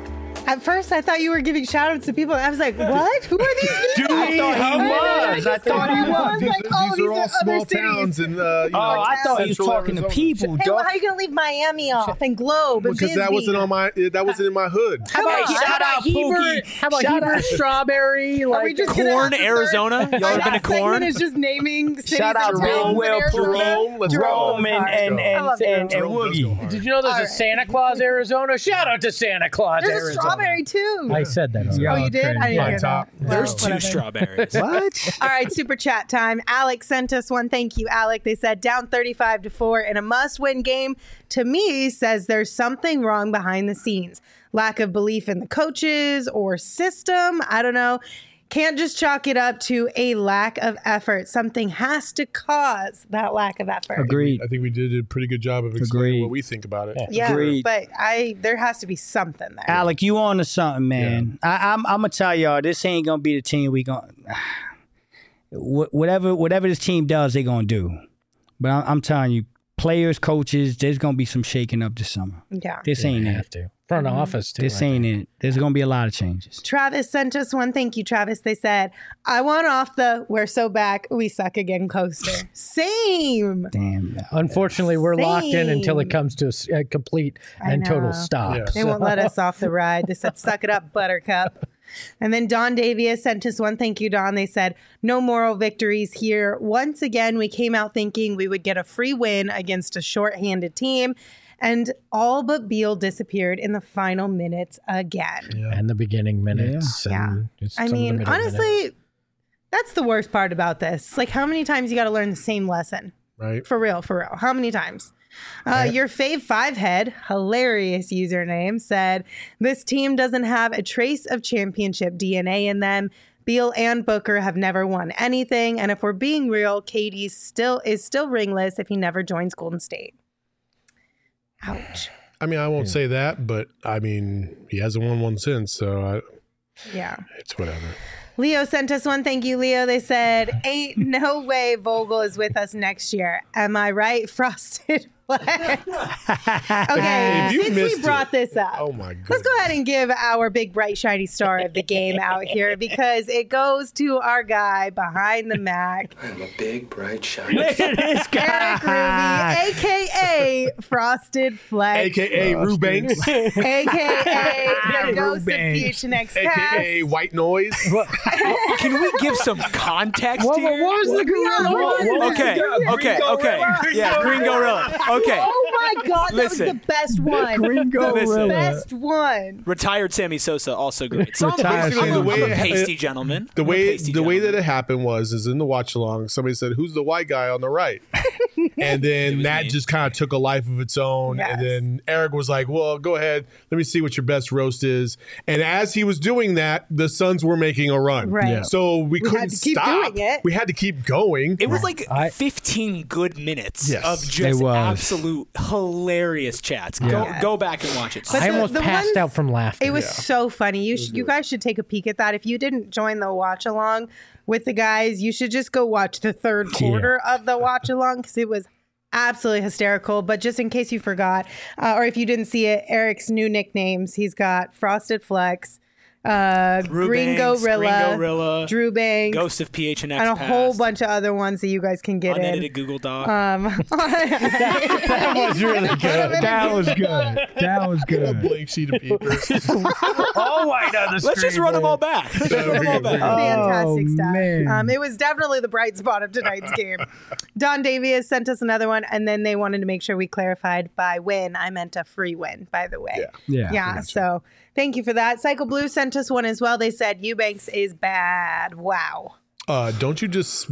At first, I thought you were giving shout outs to people. I was like, what? Who are these people? I thought he was. I thought he was. These, Like, these these are all other small cities. towns in I thought he was Central talking to Arizona. people, Hey, well, dog. how are you going to leave Miami off and Globe and Because that Bisbee? wasn't in my hood. Come on. shout out Pookie. How about Shout Heber out- Strawberry? Are we Like, just gonna have Corn, the third- Arizona? Y'all Our ever been to last segment Corn? is just naming cities Shout out and Big towns in Will, Arizona. Jerome, let's Jerome go. and I love and Jerome. Woogie. did you know there's All a right. Santa Claus, Arizona? Shout out to Santa Claus, There's a Arizona. strawberry, too. I said that. already. Oh, you did? I didn't Fine hear top. that. There's Well, 2 whatever. strawberries. What? All right, super chat time. Alex sent us one. Thank you, Alec. They said down 35-4 in a must-win game. To me, says there's something wrong behind the scenes. Lack of belief in the coaches or system. I don't know. Can't just chalk it up to a lack of effort. Something has to cause that lack of effort. Agreed. I think we did a pretty good job of explaining Agreed. what we think about it. Yeah, Agreed. but there has to be something there. Alec, you on to something, man. I'm gonna tell y'all, this ain't gonna be the team we gonna. Whatever this team does, they gonna do. But I'm telling you, players, coaches, there's gonna be some shaking up this summer. Yeah. This ain't have it. to. Front office, too. This I ain't it. There's gonna be a lot of changes. Travis sent us one. Thank you, Travis. They said, I want off the "we're so back, we suck again" coaster. Same. Damn. Unfortunately, we're locked in until it Same. comes to a complete I and total know. stop. Yeah. They won't let us off the ride. They said, suck it up, Buttercup. And then Don Davies sent us one. Thank you, Don. They said, no moral victories here. Once again, we came out thinking we would get a free win against a shorthanded team. And all but Beal disappeared in the final minutes again. And the beginning minutes. Yeah. And just I some of the mean, middle honestly, minutes. that's the worst part about this. Like, how many times you got to learn the same lesson? Right? For real. How many times? Your Fave 5 head, hilarious username, said this team doesn't have a trace of championship DNA in them. Beal and Booker have never won anything, and if we're being real, KD is still ringless if he never joins Golden State. Ouch. I mean, I won't say that, but I mean, he hasn't won one since, so Yeah. it's whatever. Leo sent us one. Thank you, Leo. They said, ain't no way Vogel is with us next year. Am I right? Frosted Flex. If Okay, you since missed we brought this up, Oh my god. let's go ahead and give our big, bright, shiny star of the game out here because it goes to our guy behind the Mac, I'm a big, bright, shiny. Look at this guy. Eric Ruby, a.k.a. Frosted Flex, AKA Rubanks, a.k.a. the ghost of Rubanks. PHNX AKA Cast. White Noise. Can we give some context What here? was the Okay. Yeah, Green Gorilla. Okay. Oh my God, that Listen. was the best one. Green The Gorilla. best one. Retired Sammy Sosa, also great. So Retired I'm Sammy a Sosa. pasty gentleman. The I'm a way pasty the way that gentleman. it happened is in the watch along. Somebody said, "Who's the white guy on the right?" And then was that me. just kind of took a life of its own. Yes. And then Eric was like, "Well, go ahead. Let me see what your best roast is." And as he was doing that, the Suns were making a run. Right. Yeah. So we had couldn't to keep stop. doing it. We had to keep going. It was like I- 15 good minutes Yes. of It just was. absolute hilarious chats. Yeah. Go back and watch it. But I the- almost the passed ones- out from laughter. It was so funny. You guys should take a peek at that. If you didn't join the watch along with the guys, you should just go watch the third quarter of the watch along because it was absolutely hysterical. But just in case you forgot, or if you didn't see it, Eric's new nicknames. He's got Frosted Flex, Green Gorilla, Drew Banks, Ghost of PHNX, and a whole bunch of other ones that you guys can get in. unedited Google Doc. That was really good. That was good. That was A good. blank sheet of paper. All white on the Let's just run them all back. Let's just run them all back. Fantastic Oh, stuff. man. It was definitely the bright spot of tonight's game. Don Davies sent us another one, and then they wanted to make sure we clarified by win. I meant a free win, by the way. Yeah. So thank you for that. Cycle Blue sent us one as well. They said Eubanks is bad. Wow. Don't you just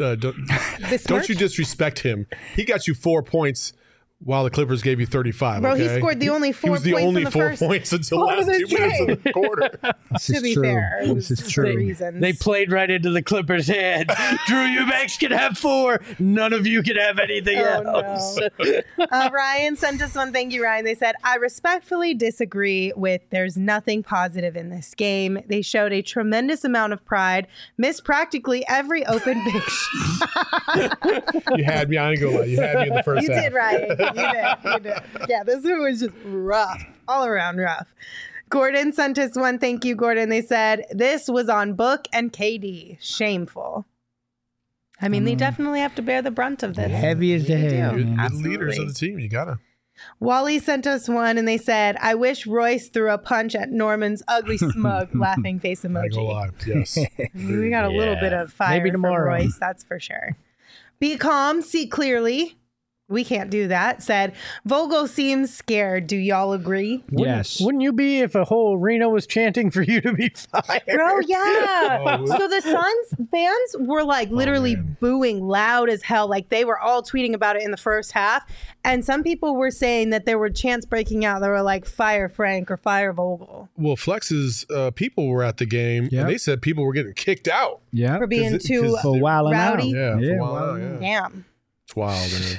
don't you disrespect him? He got you 4 points while the Clippers gave you 35. Bro, okay? he scored the only 4 He was the points only in the 4 first points until the quarter of last this 2 minutes game. of the quarter. This To is be true. fair, it was This is the true. reasons. They played right into the Clippers' head. Drew Eubanks can have 4. None of you can have anything else. Ryan sent us one. Thank you, Ryan. They said, I respectfully disagree with there's nothing positive in this game. They showed a tremendous amount of pride, missed practically every open big shot. You had me. I ain't gonna lie. You had me in the first You half. did, Ryan. You did. Yeah, this one was just rough, all around rough. Gordon sent us one. Thank you, Gordon. They said, this was on Book and KD. Shameful. I mean, they definitely have to bear the brunt of this. Heavy as the They head. do. man. You're the Absolutely. leaders of the team. You gotta. Wally sent us one and they said, I wish Royce threw a punch at Norman's ugly, smug, laughing face I ain't gonna emoji. lie. Yes. We got a little bit of fire Maybe from tomorrow. Royce, that's for sure. Be calm, see clearly. We can't do that. Said, Vogel seems scared. Do y'all agree? Yes. Wouldn't you be if a whole arena was chanting for you to be fired? Bro, yeah. Oh, So the Suns fans were like literally booing loud as hell. Like they were all tweeting about it in the first half. And some people were saying that there were chants breaking out. They were like, fire Frank or fire Vogel Well, Flex's people were at the game, Yep. and they said people were getting kicked out. Yeah. for being 'Cause too For wilding out. rowdy. Yeah, for Yeah, a while wow. now, yeah. Damn. It's wild, man.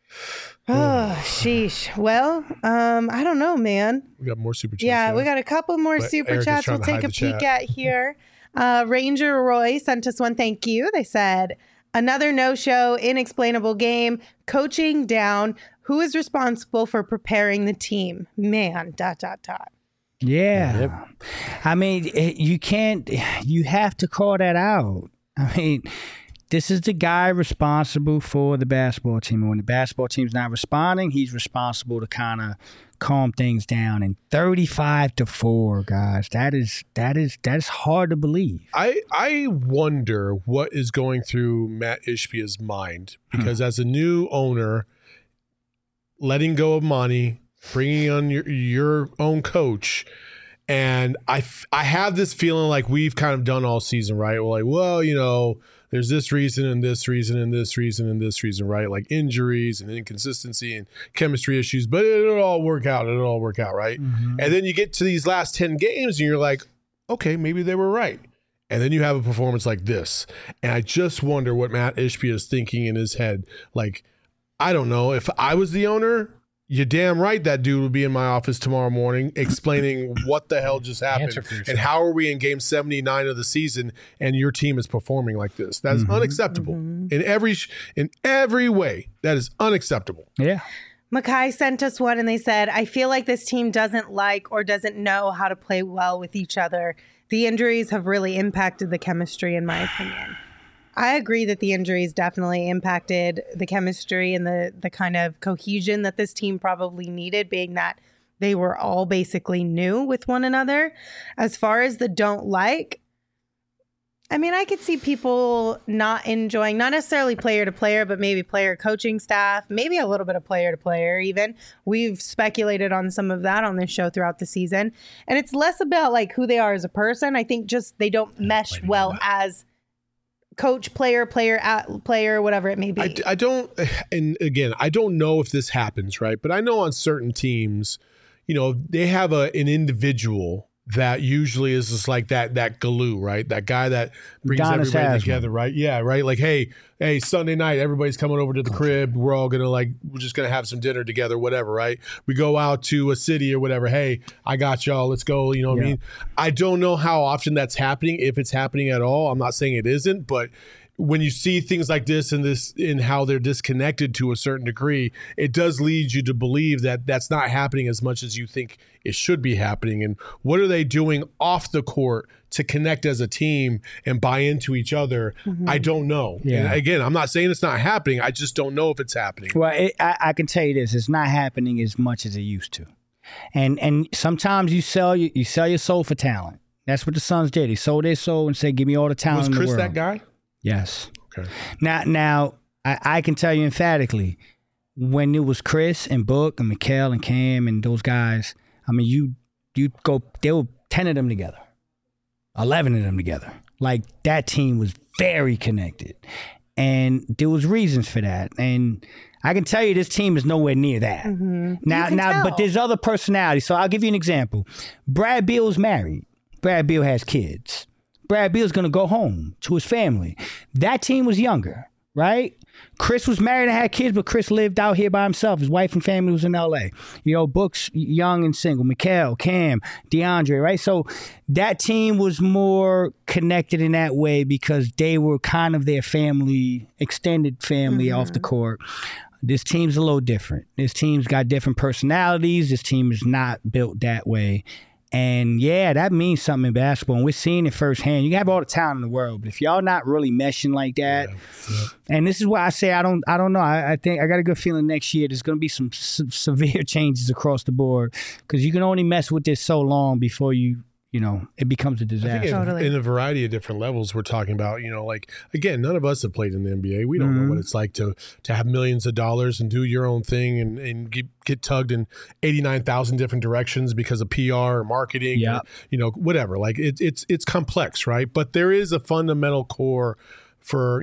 Oh, sheesh. Well, I don't know, man. We got more super chats. Yeah, now. we got a couple more But super Eric is chats trying we'll to take hide a the peek chat. at here. Ranger Roy sent us one. Thank you. They said, another no-show, inexplainable game, coaching down. Who is responsible for preparing the team? Man, ... Yeah. I mean, you have to call that out. I mean, this is the guy responsible for the basketball team. And when the basketball team's not responding, he's responsible to kind of calm things down. And 35-4, guys, that is hard to believe. I wonder what is going through Matt Ishbia's mind, because as a new owner, letting go of Monty, bringing on your own coach, and I have this feeling like we've kind of done all season, right? We're like, well, you know, there's this reason and this reason and this reason and this reason, right? Like injuries and inconsistency and chemistry issues, but it'll all work out. It'll all work out, right? And then you get to these last 10 games and you're like, okay, maybe they were right. And then you have a performance like this. And I just wonder what Matt Ishbia is thinking in his head. Like, I don't know. If I was the owner, you're damn right that dude would be in my office tomorrow morning explaining what the hell just happened Answer for yourself. and how are we in game 79 of the season and your team is performing like this. That is unacceptable in every way. That is unacceptable. Yeah. Makai sent us one and they said, I feel like this team doesn't like or doesn't know how to play well with each other. The injuries have really impacted the chemistry, in my opinion. I agree that the injuries definitely impacted the chemistry and the kind of cohesion that this team probably needed, being that they were all basically new with one another. As far as the don't like, I mean, I could see people not enjoying, not necessarily player to player, but maybe player coaching staff, maybe a little bit of player to player even. We've speculated on some of that on this show throughout the season. And it's less about like who they are as a person. I think just they don't mesh well as coach, player, whatever it may be. I don't, and again, I don't know if this happens, right? But I know on certain teams, they have an individual that usually is just like that glue, right? That guy that brings everybody together, right? Yeah, right? Like, hey, Sunday night, everybody's coming over to the crib. We're all going to we're just going to have some dinner together, whatever, right? We go out to a city or whatever. Hey, I got y'all. Let's go. You know what I mean? I don't know how often that's happening, if it's happening at all. I'm not saying it isn't, but when you see things like this and how they're disconnected to a certain degree, it does lead you to believe that that's not happening as much as you think it should be happening. And what are they doing off the court to connect as a team and buy into each other? I don't know. Yeah. And again, I'm not saying it's not happening. I just don't know if it's happening. Well, I can tell you this: it's not happening as much as it used to. And sometimes you sell your soul for talent. That's what the Suns did. They sold their soul and said, "Give me all the talent in the world." Was Chris that guy? Yes. Okay. Now I can tell you emphatically, when it was Chris and Book and Mikal and Cam and those guys, I mean, you go, there were 10 of them together, 11 of them together. Like, that team was very connected, and there was reasons for that. And I can tell you, this team is nowhere near that. Now, but there's other personalities. So I'll give you an example. Brad Beal's married. Brad Beal has kids. Brad Beal's going to go home to his family. That team was younger, right? Chris was married and had kids, but Chris lived out here by himself. His wife and family was in L.A. Book's young and single. Mikal, Cam, DeAndre, right? So that team was more connected in that way because they were kind of their family, extended family off the court. This team's a little different. This team's got different personalities. This team is not built that way. And yeah, that means something in basketball. And we're seeing it firsthand. You can have all the talent in the world, but if y'all not really meshing like that, and this is why I say I don't know. I think I got a good feeling next year there's going to be some severe changes across the board because you can only mess with this so long before it becomes a disaster. I think in a variety of different levels, we're talking about, again, none of us have played in the NBA. We don't know what it's like to have millions of dollars and do your own thing and get tugged in 89,000 different directions because of PR or marketing, or, whatever. Like it's complex, right? But there is a fundamental core for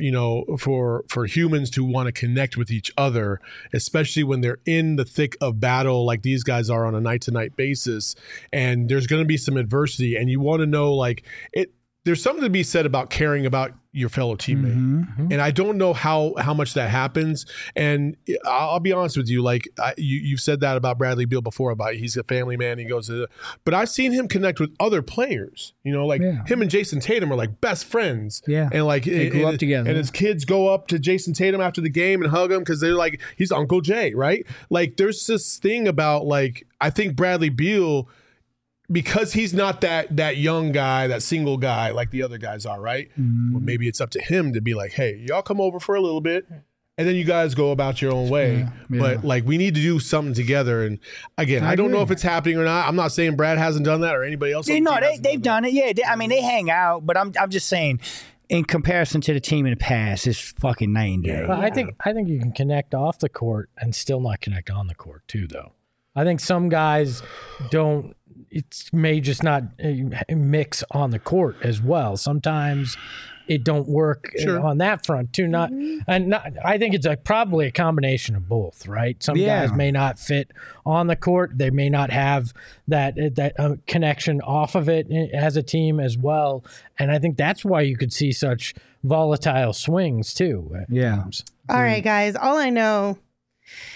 humans to want to connect with each other, especially when they're in the thick of battle like these guys are on a night-to-night basis, and there's going to be some adversity, and you want to know, there's something to be said about caring about your fellow teammate. And I don't know how much that happens. And I'll be honest with you, you've said that about Bradley Beal before, about he's a family man. He goes to but I've seen him connect with other players, him and Jason Tatum are like best friends. Yeah. And they grew up together. And his kids go up to Jason Tatum after the game and hug him because they're like, he's Uncle Jay, right? Like, there's this thing about, I think Bradley Beal, because he's not that young guy, that single guy like the other guys are, right? Well, maybe it's up to him to be like, hey, y'all come over for a little bit, and then you guys go about your own way. But we need to do something together. And again, I don't know if it's happening or not. I'm not saying Brad hasn't done that or anybody else. They've done it. Yeah, they hang out, but I'm just saying, in comparison to the team in the past, it's fucking night and day. Well, I think you can connect off the court and still not connect on the court too, though. I think some guys don't. It may just not mix on the court as well. Sometimes it don't work on that front too. I think it's probably a combination of both, right? Some guys may not fit on the court. They may not have that connection off of it as a team as well. And I think that's why you could see such volatile swings too. All right, guys. All I know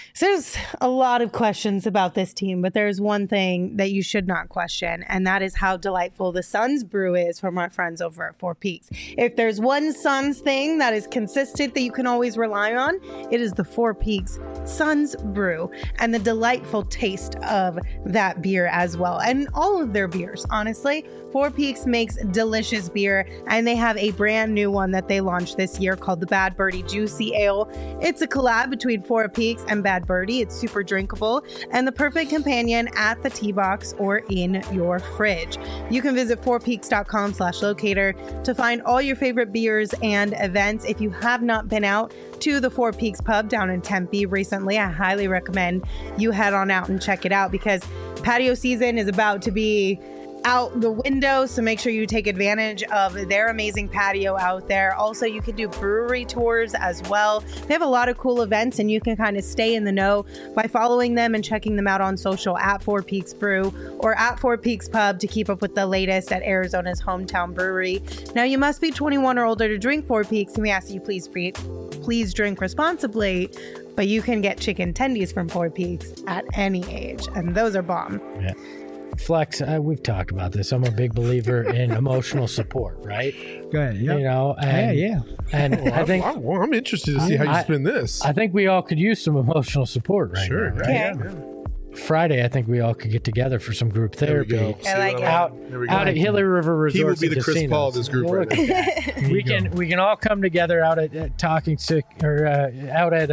So there's a lot of questions about this team, but there's one thing that you should not question, and that is how delightful the Suns brew is from our friends over at Four Peaks. If there's one Suns thing that is consistent that you can always rely on, it is the Four Peaks Suns brew and the delightful taste of that beer as well. And all of their beers, honestly. Four Peaks makes delicious beer, and they have a brand new one that they launched this year called the Bad Birdie Juicy Ale. It's a collab between Four Peaks and Bad Birdie. It's super drinkable and the perfect companion at the tea box or in your fridge. You can visit fourpeaks.com/locator to find all your favorite beers and events. If you have not been out to the Four Peaks pub down in Tempe recently, I highly recommend you head on out and check it out because patio season is about to be out the window, so make sure you take advantage of their amazing patio out there. Also, you can do brewery tours as well. They have a lot of cool events, and you can kind of stay in the know by following them and checking them out on social at Four Peaks Brew or at Four Peaks Pub to keep up with the latest at Arizona's hometown brewery. Now, you must be 21 or older to drink Four Peaks, and we ask that you please drink responsibly, but you can get chicken tendies from Four Peaks at any age, and those are bomb. Yeah. Flex, we've talked about this. I'm a big believer in emotional support, right? Go ahead. Yep. You know, and, and I think I'm interested to see how you spin this. I think we all could use some emotional support right now, right? Okay. Friday, I think we all could get together for some group therapy. There we go. I like it. Out at Gila River Resort. He will be the Chris Paul of this group right now. We can all come together out at Talking Sick or out at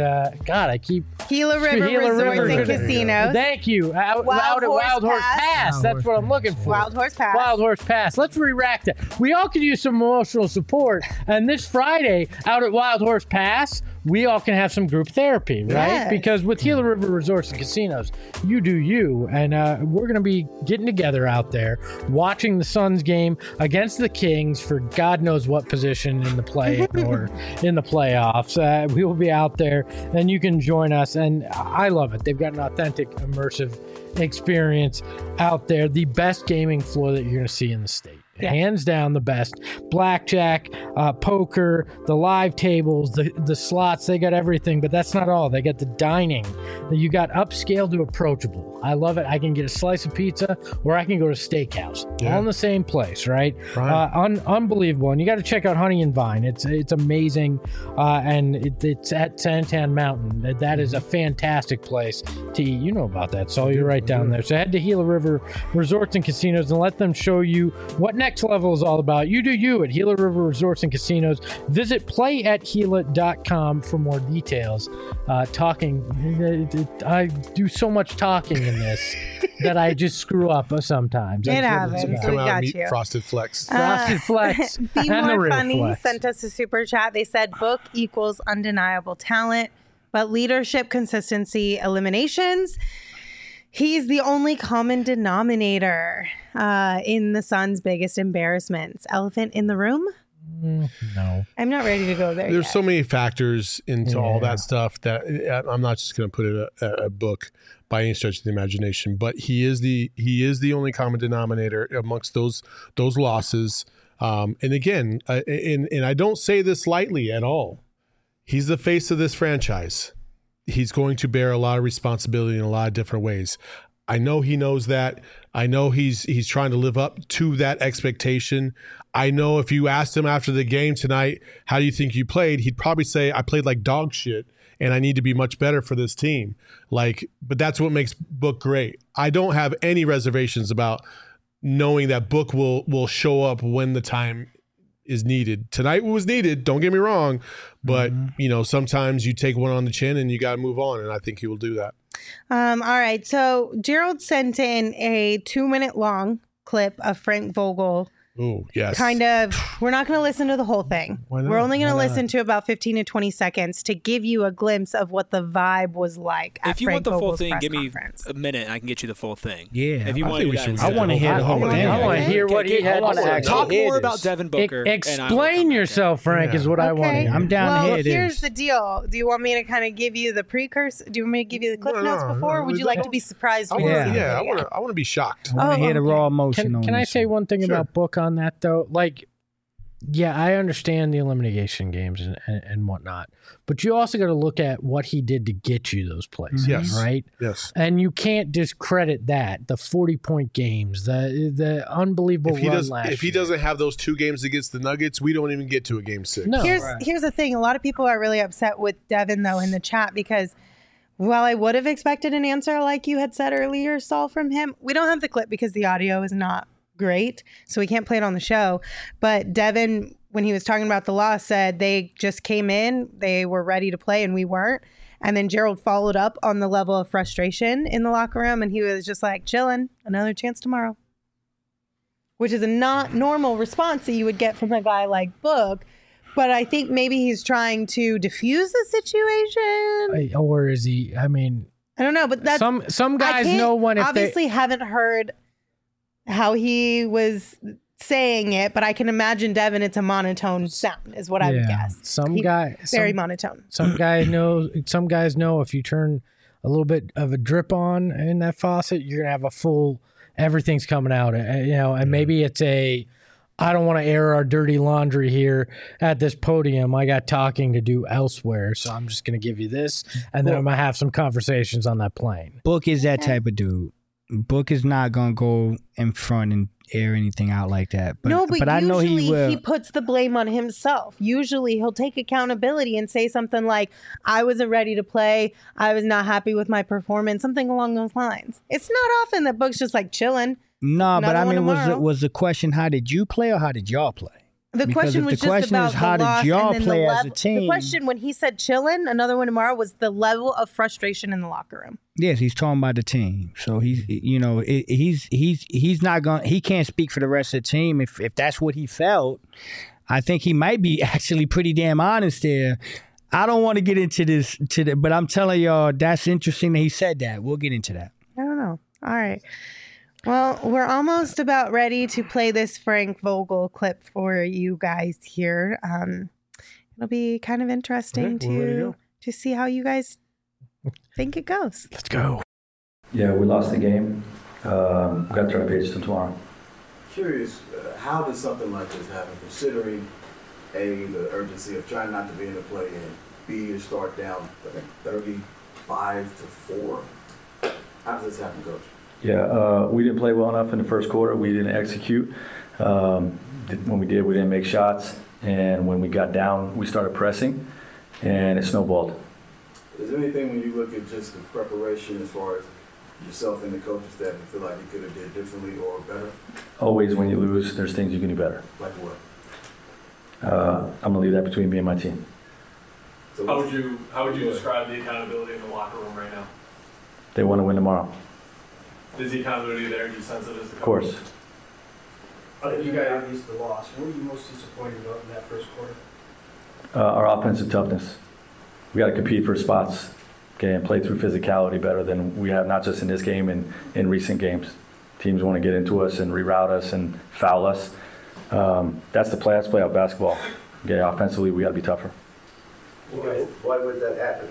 Gila River Resorts and Casinos. Thank you. Out at Wild Horse Pass. That's what I'm looking for. Wild Horse Pass. Wild Horse Pass. Let's re-rack that. We all could use some emotional support. And this Friday, out at Wild Horse Pass, we all can have some group therapy, right? Yes. Because with Gila River Resorts and Casinos, you do you. And we're going to be getting together out there, watching the Suns game against the Kings for God knows what position in the play or in the playoffs. We will be out there, and you can join us. And I love it. They've got an authentic, immersive experience out there. The best gaming floor that you're going to see in the state. Yeah. Hands down the best. Blackjack, poker, the live tables, the slots, they got everything, but that's not all. They got the dining. You got upscale to approachable. I love it. I can get a slice of pizza or I can go to steakhouse. All in the same place, right? Unbelievable. And you got to check out Honey and Vine. It's amazing. And it's at Santan Mountain. That is a fantastic place to eat. You know about that, so you're right down there. So head to Gila River Resorts and Casinos and let them show you what Next Level is all about. You do you at Gila River Resorts and Casinos. Visit playatgila.com for more details. I do so much talking in this that I just screw up sometimes. It happens. We got you. Frosted Flex. Frosted Flex. Be and the More real Funny Flex. sent us a super chat. They said book equals undeniable talent, but leadership, consistency, eliminations. He's the only common denominator in the Suns' biggest embarrassments. Elephant in the room? No. I'm not ready to go there There's yet. so many factors into all that stuff that I'm not just going to put it a book by any stretch of the imagination. But he is the only common denominator amongst those losses. And again, and I don't say this lightly at all. He's the face of this franchise. He's going to bear a lot of responsibility in a lot of different ways. I know he knows that. I know he's trying to live up to that expectation. I know if you asked him after the game tonight, how do you think you played? He'd probably say, I played like dog shit and I need to be much better for this team. But that's what makes Book great. I don't have any reservations about knowing that Book will show up when the time is needed. Tonight was needed, don't get me wrong, but sometimes you take one on the chin and you got to move on, and I think he will do that. All right, so Gerald sent in a 2-minute long clip of Frank Vogel. Oh, yes. Kind of, we're not going to listen to the whole thing. Why not? We're only going to listen to about 15 to 20 seconds to give you a glimpse of what the vibe was like at If you Frank want the full Vogel's thing, press give me conference. a minute and I can get you the full thing. Yeah, If you I want think to we do should- that. I want to hear the whole thing. I want to hear what he had to say. Talk more Gators. about Devin Booker. and I will come Explain back. yourself, Frank, is what I want to Okay. hear. I'm down well, to hear here's this. the deal. Do you want me to kind of give you the precursor? Do you want me to give you the cliff notes before? Or would you like to be surprised? when you see the I video? want to be shocked. I want to hear the raw emotion on Can I this say one. one thing Sure. about Book on that, though? Like, Yeah, I understand the elimination games and whatnot, but you also got to look at what he did to get you those places, Yes. right? Yes. And you can't discredit that. The 40-point games, the unbelievable If he run last if he year. doesn't have those 2 games against the Nuggets, we don't even get to a game 6. No. Here's the thing. A lot of people are really upset with Devin, though, in the chat because while I would have expected an answer like you had said earlier, Saul, from him, we don't have the clip because the audio is not great, so we can't play it on the show. But Devin, when he was talking about the loss, said they just came in, they were ready to play, and we weren't. And then Gerald followed up on the level of frustration in the locker room, and he was just like, chilling, another chance tomorrow. Which is a not normal response that you would get from a guy like Book. But I think maybe he's trying to diffuse the situation. Or is he? I mean, I don't know, but that's some guys know when if obviously haven't heard how he was saying it, but I can imagine Devin, it's a monotone sound, is what I would guess. Very monotone. Some guys know if you turn a little bit of a drip on in that faucet, you're gonna have a full. Everything's coming out, and maybe it's I don't want to air our dirty laundry here at this podium. I got talking to do elsewhere, so I'm just going to give you this, and then I'm going to have some conversations on that plane. Book is that type of dude. Book is not going to go in front and air anything out like that. But usually I know he will. He puts the blame on himself. Usually he'll take accountability and say something like, I wasn't ready to play. I was not happy with my performance. Something along those lines. It's not often that Book's just like chilling. No, but I mean, tomorrow. was the question, how did you play or how did y'all play? The question was just about how the loss did y'all and then play the as level. a team? The question when he said chillin', another one tomorrow, was the level of frustration in the locker room. Yes, he's talking about the team. So he's not going. He can't speak for the rest of the team. If that's what he felt, I think he might be actually pretty damn honest there. I don't want to get into this but I'm telling y'all that's interesting that he said that. We'll get into that. I don't know. All right. Well, we're almost about ready to play this Frank Vogel clip for you guys here. It'll be kind of interesting to see how you guys think it goes. Let's go. Yeah, we lost the game. We got to turn the page to tomorrow. Curious, how does something like this happen, considering A, the urgency of trying not to be in the play, and B, you start down, I think, 35-4? How does this happen, Coach? Yeah, we didn't play well enough in the first quarter. We didn't execute. When we did, we didn't make shots. And when we got down, we started pressing, and it snowballed. Is there anything when you look at just the preparation as far as yourself and the coaching staff, you feel like you could have did differently or better? Always when you lose, there's things you can do better. Like what? I'm going to leave that between me and my team. So how would you describe the accountability in the locker room right now? They want to win tomorrow. Is the accountability there? Do you sense it as the coach? Of course. You guys used the loss. What were you most disappointed about in that first quarter? Our offensive toughness. We got to compete for spots, okay, and play through physicality better than we have, not just in this game and in recent games. Teams want to get into us and reroute us and foul us. That's the play. That's play out basketball. Okay, offensively, we got to be tougher. Why would that happen?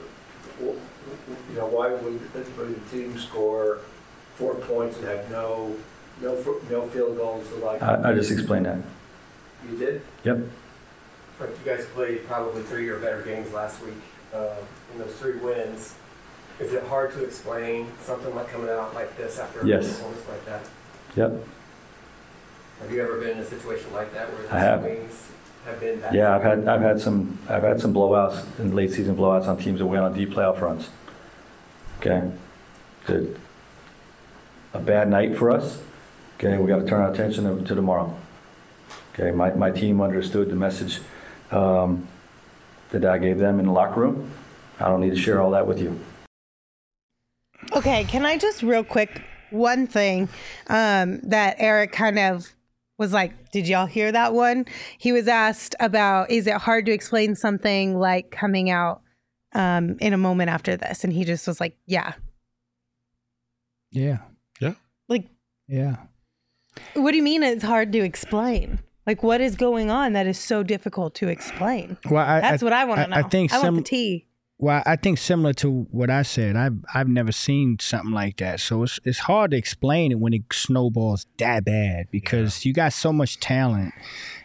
Why would the team score 4 points and have no field goals? I just explained that. You did? Yep. You guys played probably 3 or better games last week. In those 3 wins, is it hard to explain something like coming out like this after a performance like that? Yep. Have you ever been in a situation like that where the swings have been that? Yeah, I've had some blowouts and late season blowouts on teams that went on deep playoff runs. Okay, good. A bad night for us. Okay, we got to turn our attention to tomorrow. Okay, my team understood the message that I gave them in the locker room. I don't need to share all that with you. Okay, can I just real quick, one thing that Eric kind of was like, did y'all hear that one? He was asked about, is it hard to explain something like coming out in a moment after this? And he just was like, yeah. Yeah. Yeah. Like, yeah. What do you mean it's hard to explain? Like, what is going on that is so difficult to explain? Well, That's what I want to know. I think I want the tea. Well, I think similar to what I said, I've never seen something like that. So it's hard to explain it when it snowballs that bad because you got so much talent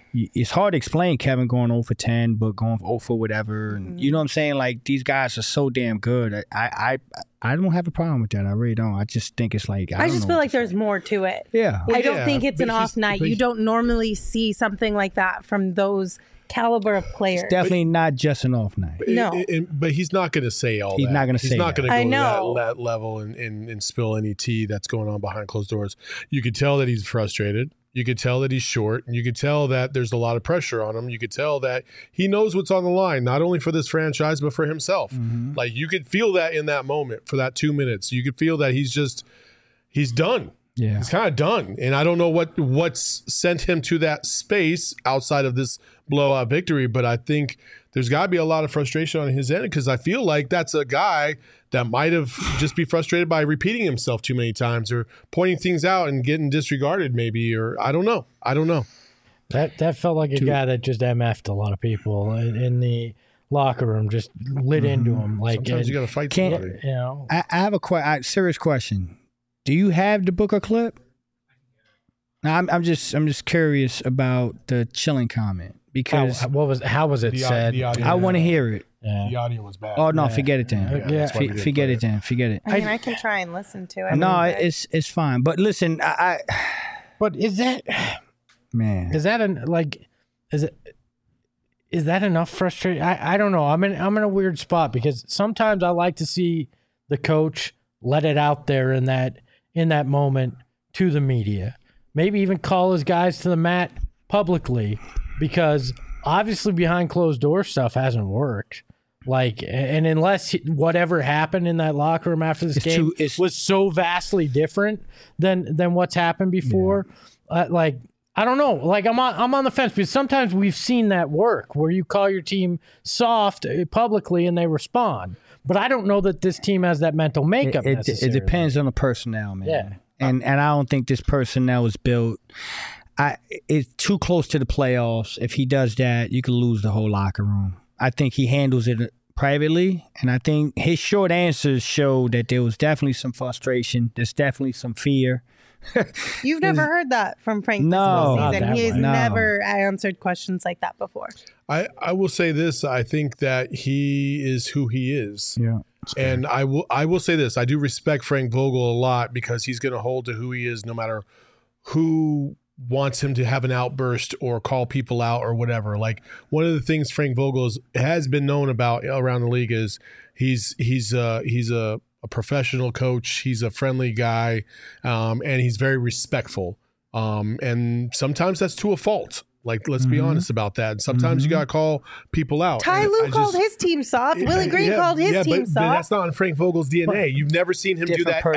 it's hard to explain Kevin going 0 for 10, but going 0 for whatever. And you know what I'm saying? Like, these guys are so damn good. I don't have a problem with that. I really don't. I just think it's like, I just feel like there's more to it. Yeah. I don't think it's an off night. You don't normally see something like that from those caliber of players. It's definitely not just an off night. No. But he's not going to say all that. He's not going to say He's not going to I go know. to that level and spill any tea that's going on behind closed doors. You could tell that he's frustrated. You could tell that he's short. And you could tell that there's a lot of pressure on him. You could tell that he knows what's on the line, not only for this franchise, but for himself. Like, you could feel that in that moment for that 2 minutes. You could feel that he's done. Yeah. He's kind of done. And I don't know what's sent him to that space outside of this blowout victory, but I think there's got to be a lot of frustration on his end, because I feel like that's a guy that might have just be frustrated by repeating himself too many times or pointing things out and getting disregarded maybe, or I don't know. That felt like a guy that just MF'd a lot of people in the locker room, just lit into him. Like, sometimes you got to fight somebody. You know, I have a serious question. Do you have the Booker clip? Now, I'm just curious about the chilling comment, because how was it said? I want to hear it. Yeah. The audio was bad. Oh no, forget it then. Forget it then. Forget it. I mean, I can try and listen to it. No, it's fine. But listen, But is that man? Is that is that enough frustration? I don't know. I'm in a weird spot, because sometimes I like to see the coach let it out there in that moment to the media. Maybe even call his guys to the mat publicly, because obviously behind closed door stuff hasn't worked. Like, and unless whatever happened in that locker room after this game was so vastly different than what's happened before, like, I don't know. Like, I'm on the fence, because sometimes we've seen that work where you call your team soft publicly and they respond. But I don't know that this team has that mental makeup. It necessarily. depends on the personnel, man. Yeah. And I don't think this personnel is built. It's too close to the playoffs. If he does that, you could lose the whole locker room. I think he handles it privately, and I think his short answers show that there was definitely some frustration. There's definitely some fear. You've never heard that from Frank this whole season. He has never answered questions like that before. I will say this. I think that he is who he is. Yeah. And I will say this. I do respect Frank Vogel a lot, because he's going to hold to who he is no matter who wants him to have an outburst or call people out or whatever. Like, one of the things Frank Vogel has been known about around the league is he's a professional coach. He's a friendly guy, and he's very respectful. And sometimes that's to a fault. Like, let's be honest about that. And sometimes you got to call people out. Ty Lue called his team soft. Willie Green called his team soft. But that's not in Frank Vogel's DNA. You've never seen him do that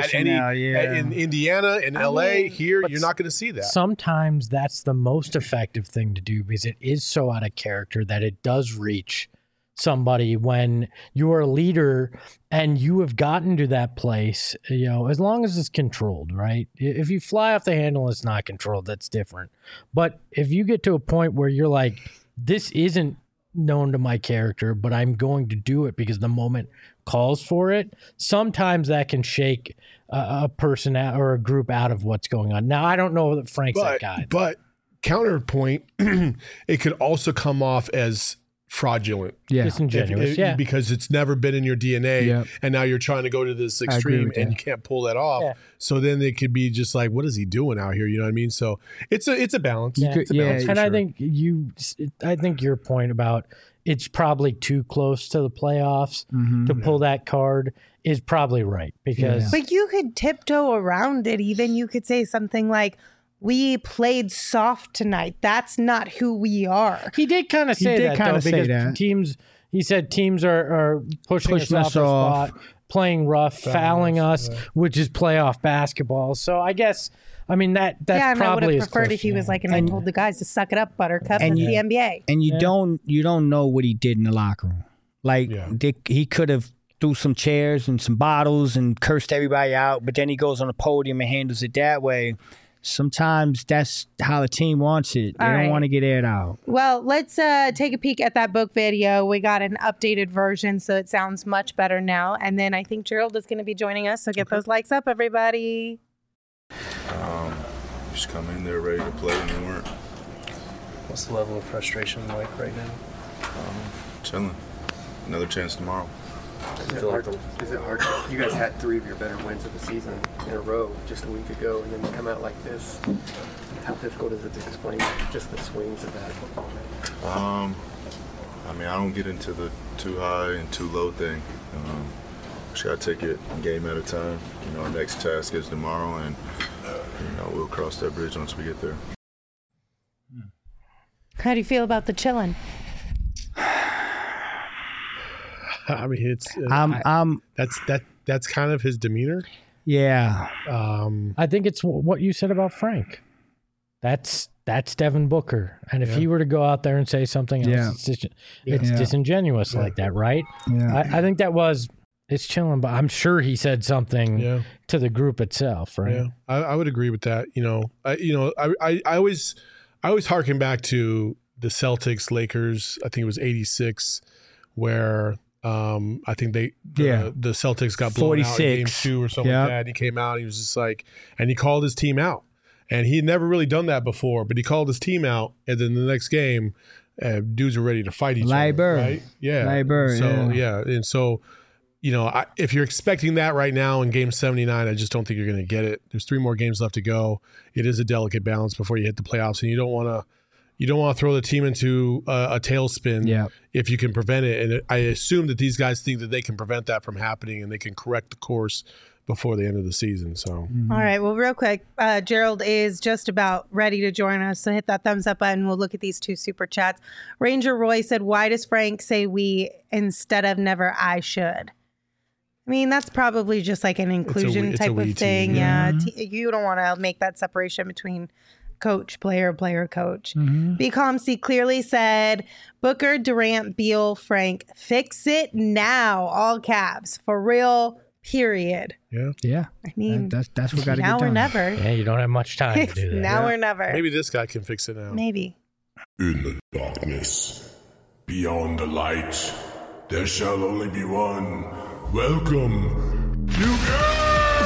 in Indiana, in LA, here. You're not going to see that. Sometimes that's the most effective thing to do, because it is so out of character that it does reach somebody when you're a leader and you have gotten to that place, you know, as long as it's controlled, right? If you fly off the handle and it's not controlled, that's different. But if you get to a point where you're like, this isn't known to my character, but I'm going to do it because the moment calls for it, sometimes that can shake a person out or a group out of what's going on. Now, I don't know that Frank's that guy. But counterpoint, it could also come off as fraudulent, disingenuous, because it's never been in your DNA, and now you're trying to go to this extreme and you can't pull that off. So then it could be just like, what is he doing out here? You know what I mean? So it's a balance. It's a balance and sure. I think your point about it's probably too close to the playoffs to pull that card is probably right, because but you could tiptoe around it. Even you could say something like, we played soft tonight. That's not who we are. He did kind of say that, though, because teams, he said teams are pushing us off our spot, playing rough, fouling us, which is playoff basketball. So I guess, I mean, that's probably I would have his preferred if he was like, and I told the guys to suck it up, Buttercup, it's the NBA. And you don't know what he did in the locker room. Like, he could have threw some chairs and some bottles and cursed everybody out, but then he goes on the podium and handles it that way. Sometimes that's how the team wants it. They don't want to get aired out. Well, let's take a peek at that book video. We got an updated version, so it sounds much better now. And then I think Gerald is going to be joining us, so get those likes up, everybody. Just come in there ready to play, and they weren't. What's the level of frustration like right now? Chilling. Another chance tomorrow. Is it hard? You guys had 3 of your better wins of the season in a row just a week ago, and then you come out like this. How difficult is it to explain just the swings of that? I mean, I don't get into the too high and too low thing. Just gotta take it game at a time. You know, our next task is tomorrow, and we'll cross that bridge once we get there. How do you feel about the chillin'? I mean, that's kind of his demeanor. Yeah. I think it's what you said about Frank. That's Devin Booker, and if he were to go out there and say something else, it's disingenuous like that, right? Yeah. I think it's chilling, but I'm sure he said something to the group itself, right? Yeah, I would agree with that. I always harken back to the Celtics Lakers. I think it was '86, where I think the Celtics got blown 46. out in game 2 or something like that. And he came out and he was just like, and he called his team out. And he had never really done that before, but he called his team out. And then the next game, dudes were ready to fight each other. Right? Yeah. And so, if you're expecting that right now in game 79, I just don't think you're going to get it. There's 3 more games left to go. It is a delicate balance before you hit the playoffs, and you don't want to throw the team into a tailspin if you can prevent it. And I assume that these guys think that they can prevent that from happening and they can correct the course before the end of the season. So, All right. Well, real quick, Gerald is just about ready to join us. So hit that thumbs up button. We'll look at these 2 super chats. Ranger Roy said, "Why does Frank say we instead of never I should?" I mean, that's probably just like an inclusion type of thing. You don't want to make that separation between coach, player, coach. BComC clearly said, Booker, Durant, Beal, Frank, fix it now. All caps. For real, period. Yeah. I mean, that's what got to get done. Now or never. Yeah, you don't have much time to do that. Now or never. Maybe this guy can fix it now. Maybe. In the darkness, beyond the light, there shall only be one. Welcome to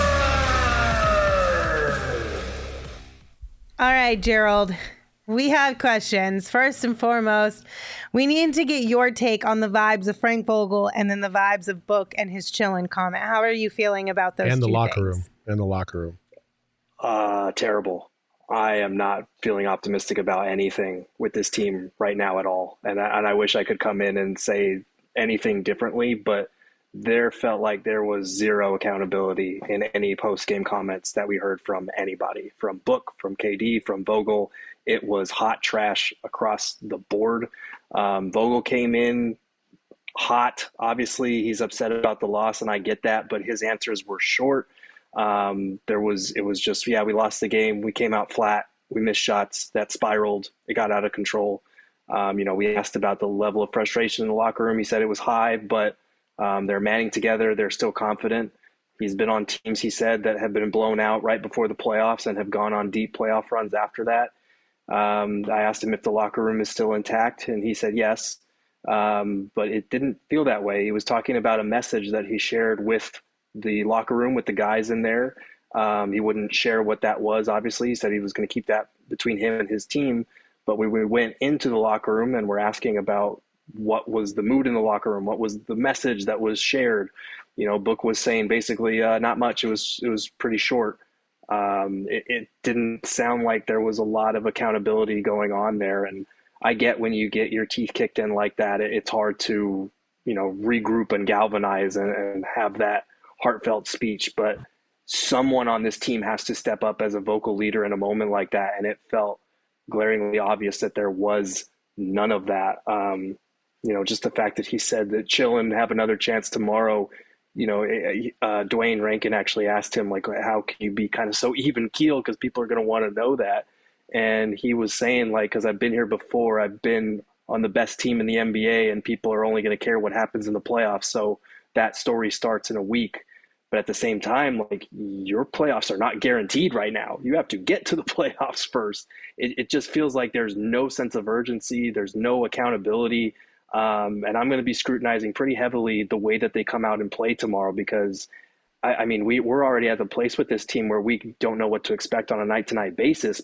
All right, Gerald, we have questions. First and foremost, we need to get your take on the vibes of Frank Vogel and then the vibes of Book and his chillin' comment. How are you feeling about those and the two locker things? room. Terrible. I am not feeling optimistic about anything with this team right now at all. And I wish I could come in and say anything differently, but there felt like there was zero accountability in any post-game comments that we heard from anybody, from Book, from KD, from Vogel. It was hot trash across the board. Vogel came in hot. Obviously, he's upset about the loss, and I get that, but his answers were short. It was just, we lost the game. We came out flat. We missed shots that spiraled. It got out of control. We asked about the level of frustration in the locker room. He said it was high, but they're manning together. They're still confident. He's been on teams, he said, that have been blown out right before the playoffs and have gone on deep playoff runs after that. I asked him if the locker room is still intact, and he said yes, but it didn't feel that way. He was talking about a message that he shared with the locker room, with the guys in there. He wouldn't share what that was, obviously. He said he was going to keep that between him and his team, but we went into the locker room and we're asking about what was the mood in the locker room, what was the message that was shared. Book was saying basically not much. It was pretty short. It didn't sound like there was a lot of accountability going on there. And I get when you get your teeth kicked in like that, it's hard to, regroup and galvanize and have that heartfelt speech. But someone on this team has to step up as a vocal leader in a moment like that. And it felt glaringly obvious that there was none of that. Just the fact that he said that chill and have another chance tomorrow. Dwayne Rankin actually asked him, like, how can you be kind of so even keeled? Because people are going to want to know that. And he was saying, like, because I've been here before, I've been on the best team in the NBA, and people are only going to care what happens in the playoffs. So that story starts in a week. But at the same time, like, your playoffs are not guaranteed right now. You have to get to the playoffs first. It just feels like there's no sense of urgency. There's no accountability. And I'm going to be scrutinizing pretty heavily the way that they come out and play tomorrow, because we're already at the place with this team where we don't know what to expect on a night-to-night basis, but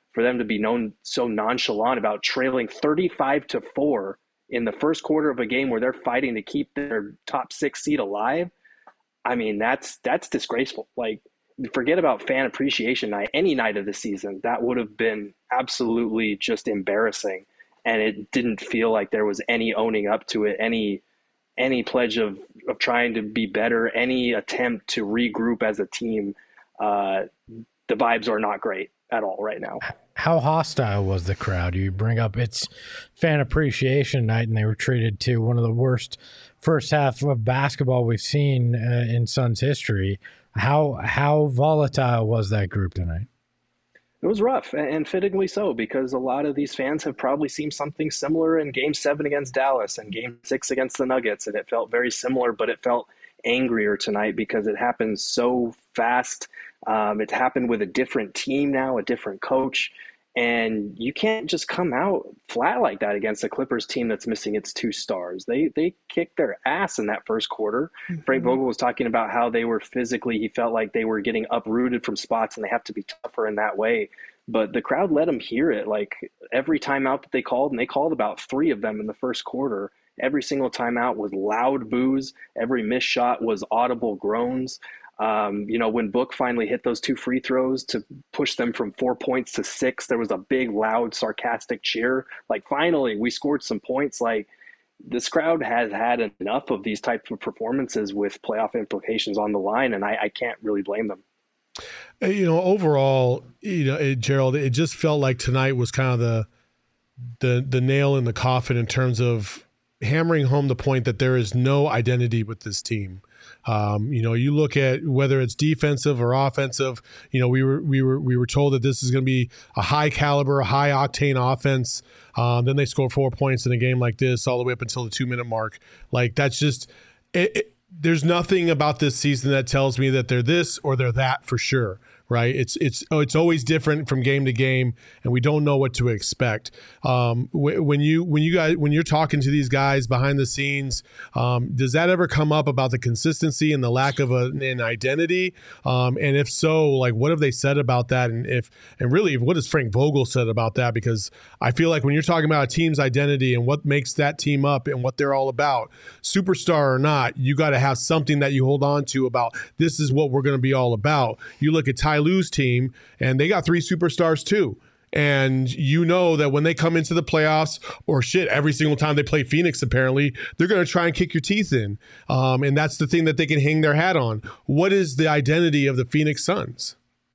for them to be known so nonchalant about trailing 35-4 in the first quarter of a game where they're fighting to keep their top 6 seed alive. I mean, that's disgraceful. Like, forget about fan appreciation night, any night of the season, that would have been absolutely just embarrassing. And it didn't feel like there was any owning up to it, any pledge of trying to be better, any attempt to regroup as a team. The vibes are not great at all right now. How hostile was the crowd? You bring up it's fan appreciation night, and they were treated to one of the worst first half of basketball we've seen in Suns history. How volatile was that group tonight? It was rough, and fittingly so, because a lot of these fans have probably seen something similar in Game 7 against Dallas and Game 6 against the Nuggets, and it felt very similar, but it felt angrier tonight because it happened so fast. It happened with a different team now, a different coach, and you can't just come out flat like that against a Clippers team that's missing its 2 stars. They kicked their ass in that first quarter. Mm-hmm. Frank Vogel was talking about how they were physically, he felt like they were getting uprooted from spots and they have to be tougher in that way. But the crowd let them hear it. Like, every timeout that they called, and they called about 3 of them in the first quarter, every single timeout was loud boos. Every missed shot was audible groans. When Book finally hit those 2 free throws to push them from 4 points to 6, there was a big, loud, sarcastic cheer. Like, finally, we scored some points. Like, this crowd has had enough of these types of performances with playoff implications on the line, and I can't really blame them. Overall, Gerald, it just felt like tonight was kind of the nail in the coffin in terms of hammering home the point that there is no identity with this team. You look at whether it's defensive or offensive, we were told that this is going to be a high caliber, high octane offense. Then they score 4 points in a game like this all the way up until the 2-minute mark. Like, that's just there's nothing about this season that tells me that they're this or they're that for sure. Right. It's always different from game to game, and we don't know what to expect. When you're talking to these guys behind the scenes, does that ever come up about the consistency and the lack of an identity? And if so, like, what have they said about that? And really, what has Frank Vogel said about that? Because I feel like when you're talking about a team's identity and what makes that team up and what they're all about, superstar or not, you got to have something that you hold on to about this is what we're going to be all about. You look at Ty Lue's team, and they got 3 superstars too. And you know that when they come into the playoffs, or every single time they play Phoenix, apparently, they're going to try and kick your teeth in. And that's the thing that they can hang their hat on. What is the identity of the Phoenix Suns?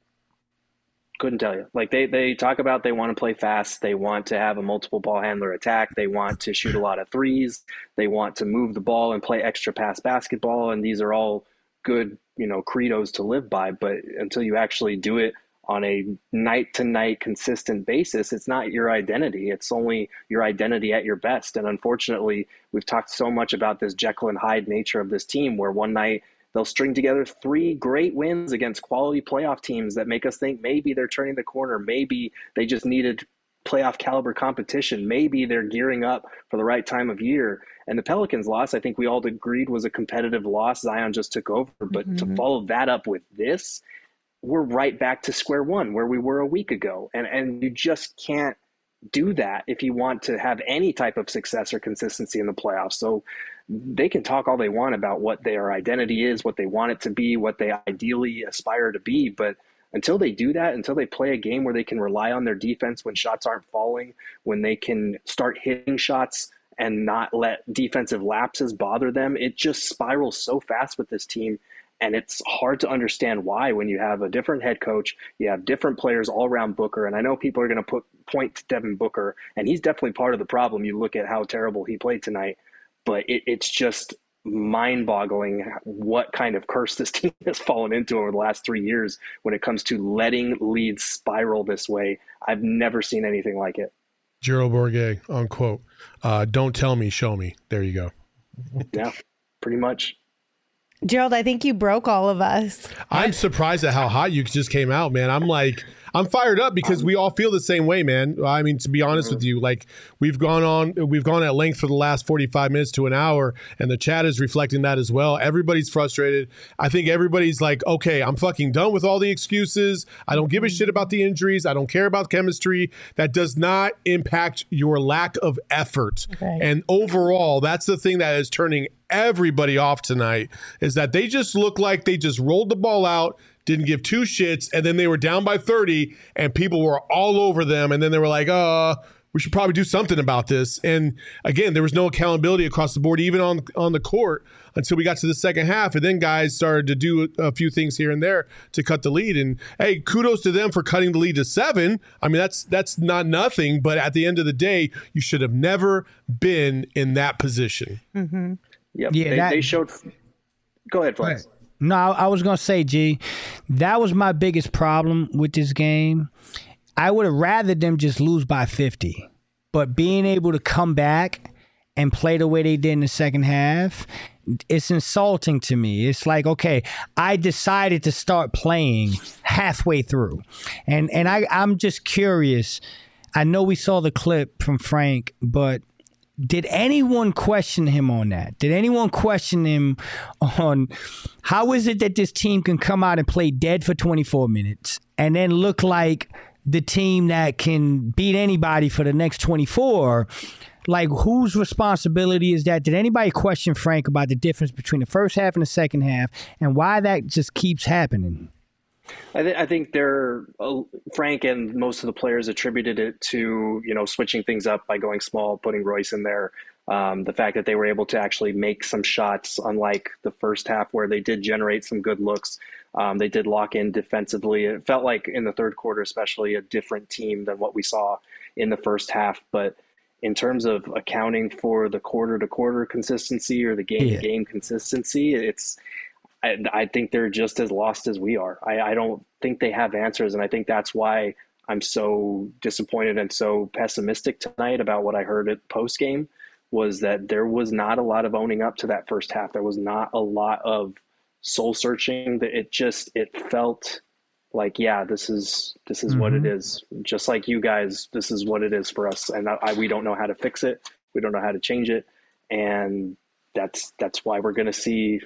Couldn't tell you. Like, they talk about they want to play fast. They want to have a multiple ball handler attack. They want to shoot a lot of threes. They want to move the ball and play extra pass basketball. And these are all good, credos to live by. But until you actually do it on a night-to-night consistent basis, it's not your identity. It's only your identity at your best. And unfortunately, we've talked so much about this Jekyll and Hyde nature of this team, where one night they'll string together 3 great wins against quality playoff teams that make us think maybe they're turning the corner. Maybe they just needed playoff caliber competition. Maybe they're gearing up for the right time of year. And the Pelicans loss, I think we all agreed, was a competitive loss. Zion just took over. But to follow that up with this, we're right back to square one where we were a week ago. And you just can't do that if you want to have any type of success or consistency in the playoffs. So they can talk all they want about what their identity is, what they want it to be, what they ideally aspire to be. But until they do that, until they play a game where they can rely on their defense when shots aren't falling, when they can start hitting shots and not let defensive lapses bother them, it just spirals so fast with this team. And it's hard to understand why when you have a different head coach, you have different players all around Booker. And I know people are going to point to Devin Booker, and he's definitely part of the problem. You look at how terrible he played tonight, but it's just mind-boggling what kind of curse this team has fallen into over the last 3 years when it comes to letting leads spiral this way. I've never seen anything like it. Gerald Bourguet, unquote. Don't tell me, show me. There you go. Yeah, pretty much. Gerald, I think you broke all of us. I'm surprised at how hot you just came out, man. I'm like, I'm fired up because we all feel the same way, man. I mean, to be honest with you, like we've gone at length for the last 45 minutes to an hour, and the chat is reflecting that as well. Everybody's frustrated. I think everybody's like, okay, I'm fucking done with all the excuses. I don't give a shit about the injuries. I don't care about chemistry. That does not impact your lack of effort. Okay. And overall, that's the thing that is turning everybody off tonight, is that they just look like they just rolled the ball out, didn't give two shits, and then they were down by 30 and people were all over them, and then they were like, we should probably do something about this. And again, there was no accountability across the board, even on the court, until we got to the second half, and then guys started to do a few things here and there to cut the lead. And hey, kudos to them for cutting the lead to 7. I mean, that's not nothing, but at the end of the day, you should have never been in that position. Mm-hmm. Yep. Yeah, they showed. Go ahead, Flex. No, I was going to say, G, that was my biggest problem with this game. I would have rather them just lose by 50. But being able to come back and play the way they did in the second half, it's insulting to me. It's like, okay, I decided to start playing halfway through. And I'm just curious. I know we saw the clip from Frank, but did anyone question him on that? Did anyone question him on how is it that this team can come out and play dead for 24 minutes and then look like the team that can beat anybody for the next 24? Like, whose responsibility is that? Did anybody question Frank about the difference between the first half and the second half and why that just keeps happening? I think Frank and most of the players attributed it to, switching things up by going small, putting Royce in there. The fact that they were able to actually make some shots, unlike the first half where they did generate some good looks. They did lock in defensively. It felt like in the third quarter, especially, a different team than what we saw in the first half. But in terms of accounting for the quarter-to-quarter consistency or the game-to-game consistency, I think they're just as lost as we are. I don't think they have answers, and I think that's why I'm so disappointed and so pessimistic tonight about what I heard at post-game, was that there was not a lot of owning up to that first half. There was not a lot of soul-searching. It felt like, yeah, this is what it is. Just like you guys, this is what it is for us, and we don't know how to fix it. We don't know how to change it, and that's why we're going to see.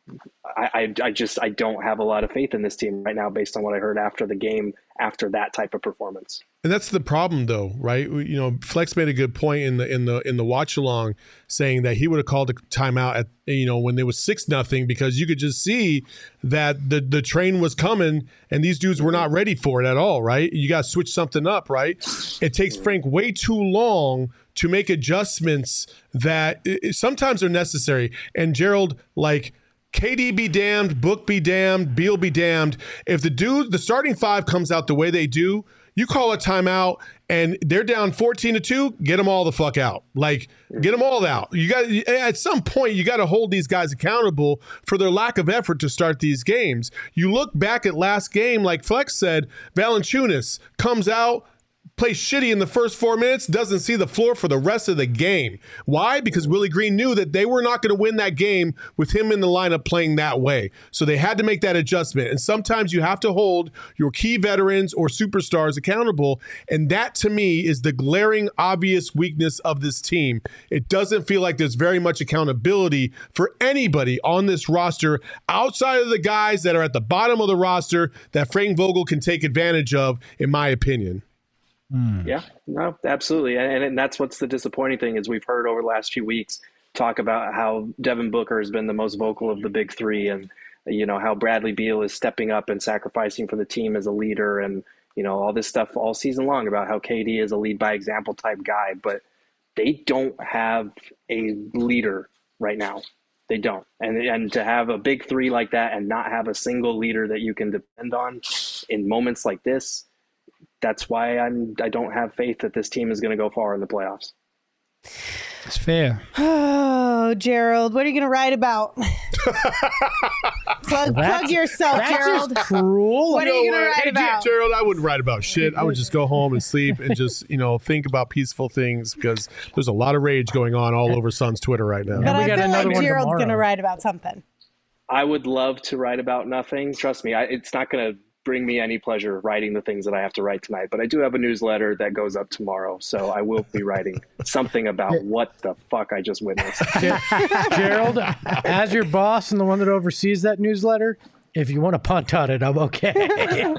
I don't have a lot of faith in this team right now based on what I heard after the game, after that type of performance. And that's the problem, though, right? Flex made a good point in the watch along, saying that he would have called a timeout at when there was 6-0, because you could just see that the train was coming and these dudes were not ready for it at all, right? You got to switch something up, right? It takes Frank way too long to make adjustments that sometimes are necessary. And Gerald, like, KD be damned, Book be damned, Beal be damned. If the starting 5 comes out the way they do, you call a timeout and they're down 14-2, get them all the fuck out. Like, get them all out. You got, at some point, you got to hold these guys accountable for their lack of effort to start these games. You look back at last game, like Flex said, Valanciunas comes out, plays shitty in the first 4 minutes, doesn't see the floor for the rest of the game. Why? Because Willie Green knew that they were not going to win that game with him in the lineup playing that way. So they had to make that adjustment. And sometimes you have to hold your key veterans or superstars accountable. And that, to me, is the glaring, obvious weakness of this team. It doesn't feel like there's very much accountability for anybody on this roster outside of the guys that are at the bottom of the roster that Frank Vogel can take advantage of, in my opinion. Yeah, no, absolutely. And that's what's the disappointing thing, is we've heard over the last few weeks talk about how Devin Booker has been the most vocal of the big three, and how Bradley Beal is stepping up and sacrificing for the team as a leader, and all this stuff all season long about how KD is a lead by example type guy, but they don't have a leader right now. They don't. And to have a big three like that and not have a single leader that you can depend on in moments like this, that's why I don't have faith that this team is going to go far in the playoffs. It's fair. Oh, Gerald, what are you going to write about? plug yourself, Gerald. That's cruel. What are you going to write about? Gerald, I wouldn't write about shit. I would just go home and sleep and just, think about peaceful things, because there's a lot of rage going on all over Suns Twitter right now. But I feel like Gerald's going to write about something. I would love to write about nothing. Trust me, it's not going to bring me any pleasure writing the things that I have to write tonight. But I do have a newsletter that goes up tomorrow, so I will be writing something about what the fuck I just witnessed. Gerald, as your boss and the one that oversees that newsletter, if you want to punt on it, I'm okay.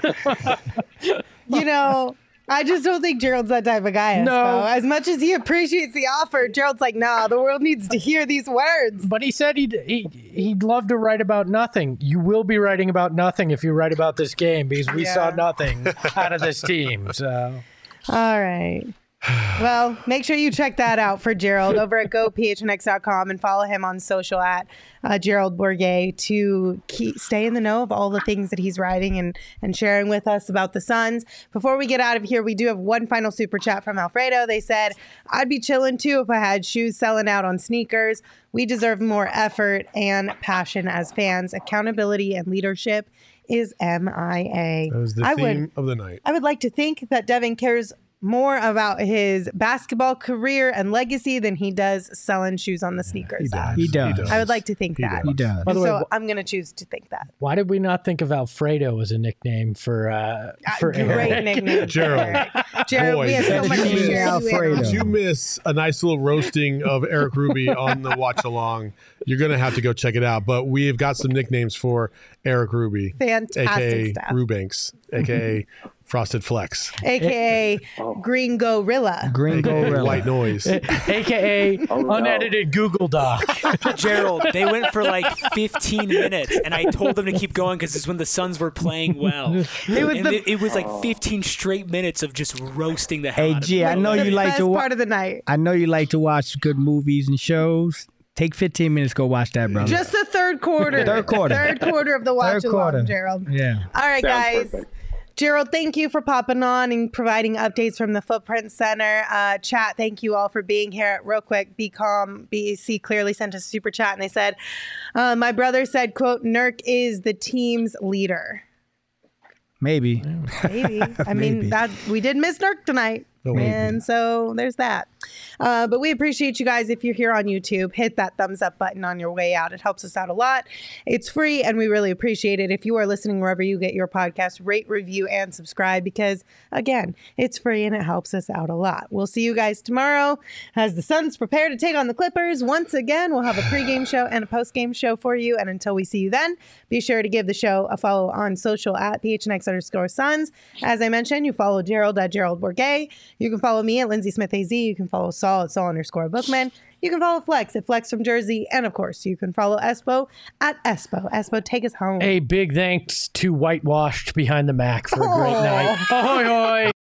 I just don't think Gerald's that type of guy. No. As much as he appreciates the offer, Gerald's like, nah, the world needs to hear these words. But he said he'd love to write about nothing. You will be writing about nothing if you write about this game, because we saw nothing out of this team. So, all right. Well, make sure you check that out for Gerald over at gophnx.com and follow him on social at Gerald Bourguet to stay in the know of all the things that he's writing and sharing with us about the Suns. Before we get out of here, we do have one final super chat from Alfredo. They said, I'd be chilling too if I had shoes selling out on sneakers. We deserve more effort and passion as fans. Accountability and leadership is MIA. That was the theme of the night. I would like to think that Devin cares more about his basketball career and legacy than he does selling shoes on the sneakers. He does. I would like to think that. He does. By the way, I'm going to choose to think that. Why did we not think of Alfredo as a nickname for Great Eric? nickname. Gerald. Jared, we have so much to share. Alfredo. Did you miss a nice little roasting of Eric Ruby on the watch along? You're going to have to go check it out. But we have got some nicknames for Eric Ruby. Fantastic AKA stuff. Rubanks, AKA Frosted Flex. AKA Green Gorilla. Green Gorilla. White Noise. AKA unedited Google Doc. Gerald, they went for like 15 minutes, and I told them to keep going because it's when the Suns were playing well. It was like 15 straight minutes of just roasting the hell out of G, I know you like to watch. Part of the night. I know you like to watch good movies and shows. Take 15 minutes, go watch that, brother. Just the third quarter. Third quarter. Third quarter of the watch Third quarter. along, Gerald. Yeah. All right, guys. Perfect. Gerald, thank you for popping on and providing updates from the Footprint Center. Chat, thank you all for being here. Real quick, Be Calm, BEC clearly sent a super chat, and they said, my brother said, quote, Nurk is the team's leader. Maybe. Maybe. I mean, that we did miss Nurk tonight. And so there's that. But we appreciate you guys. If you're here on YouTube, hit that thumbs up button on your way out. It helps us out a lot. It's free, and we really appreciate it. If you are listening wherever you get your podcast, rate, review, and subscribe because, again, it's free and it helps us out a lot. We'll see you guys tomorrow as the Suns prepare to take on the Clippers. Once again, we'll have a pregame show and a postgame show for you. And until we see you then, be sure to give the show a follow on social at PHNX_Suns. As I mentioned, you follow Gerald at Gerald Bourguet. You can follow me at Lindsay Smith AZ. You can follow Saul at Saul_Bookman. You can follow Flex at Flex from Jersey. And of course, you can follow Espo at Espo. Espo, take us home. A big thanks to Whitewashed Behind the Mac for a great night. Ahoy, hoy.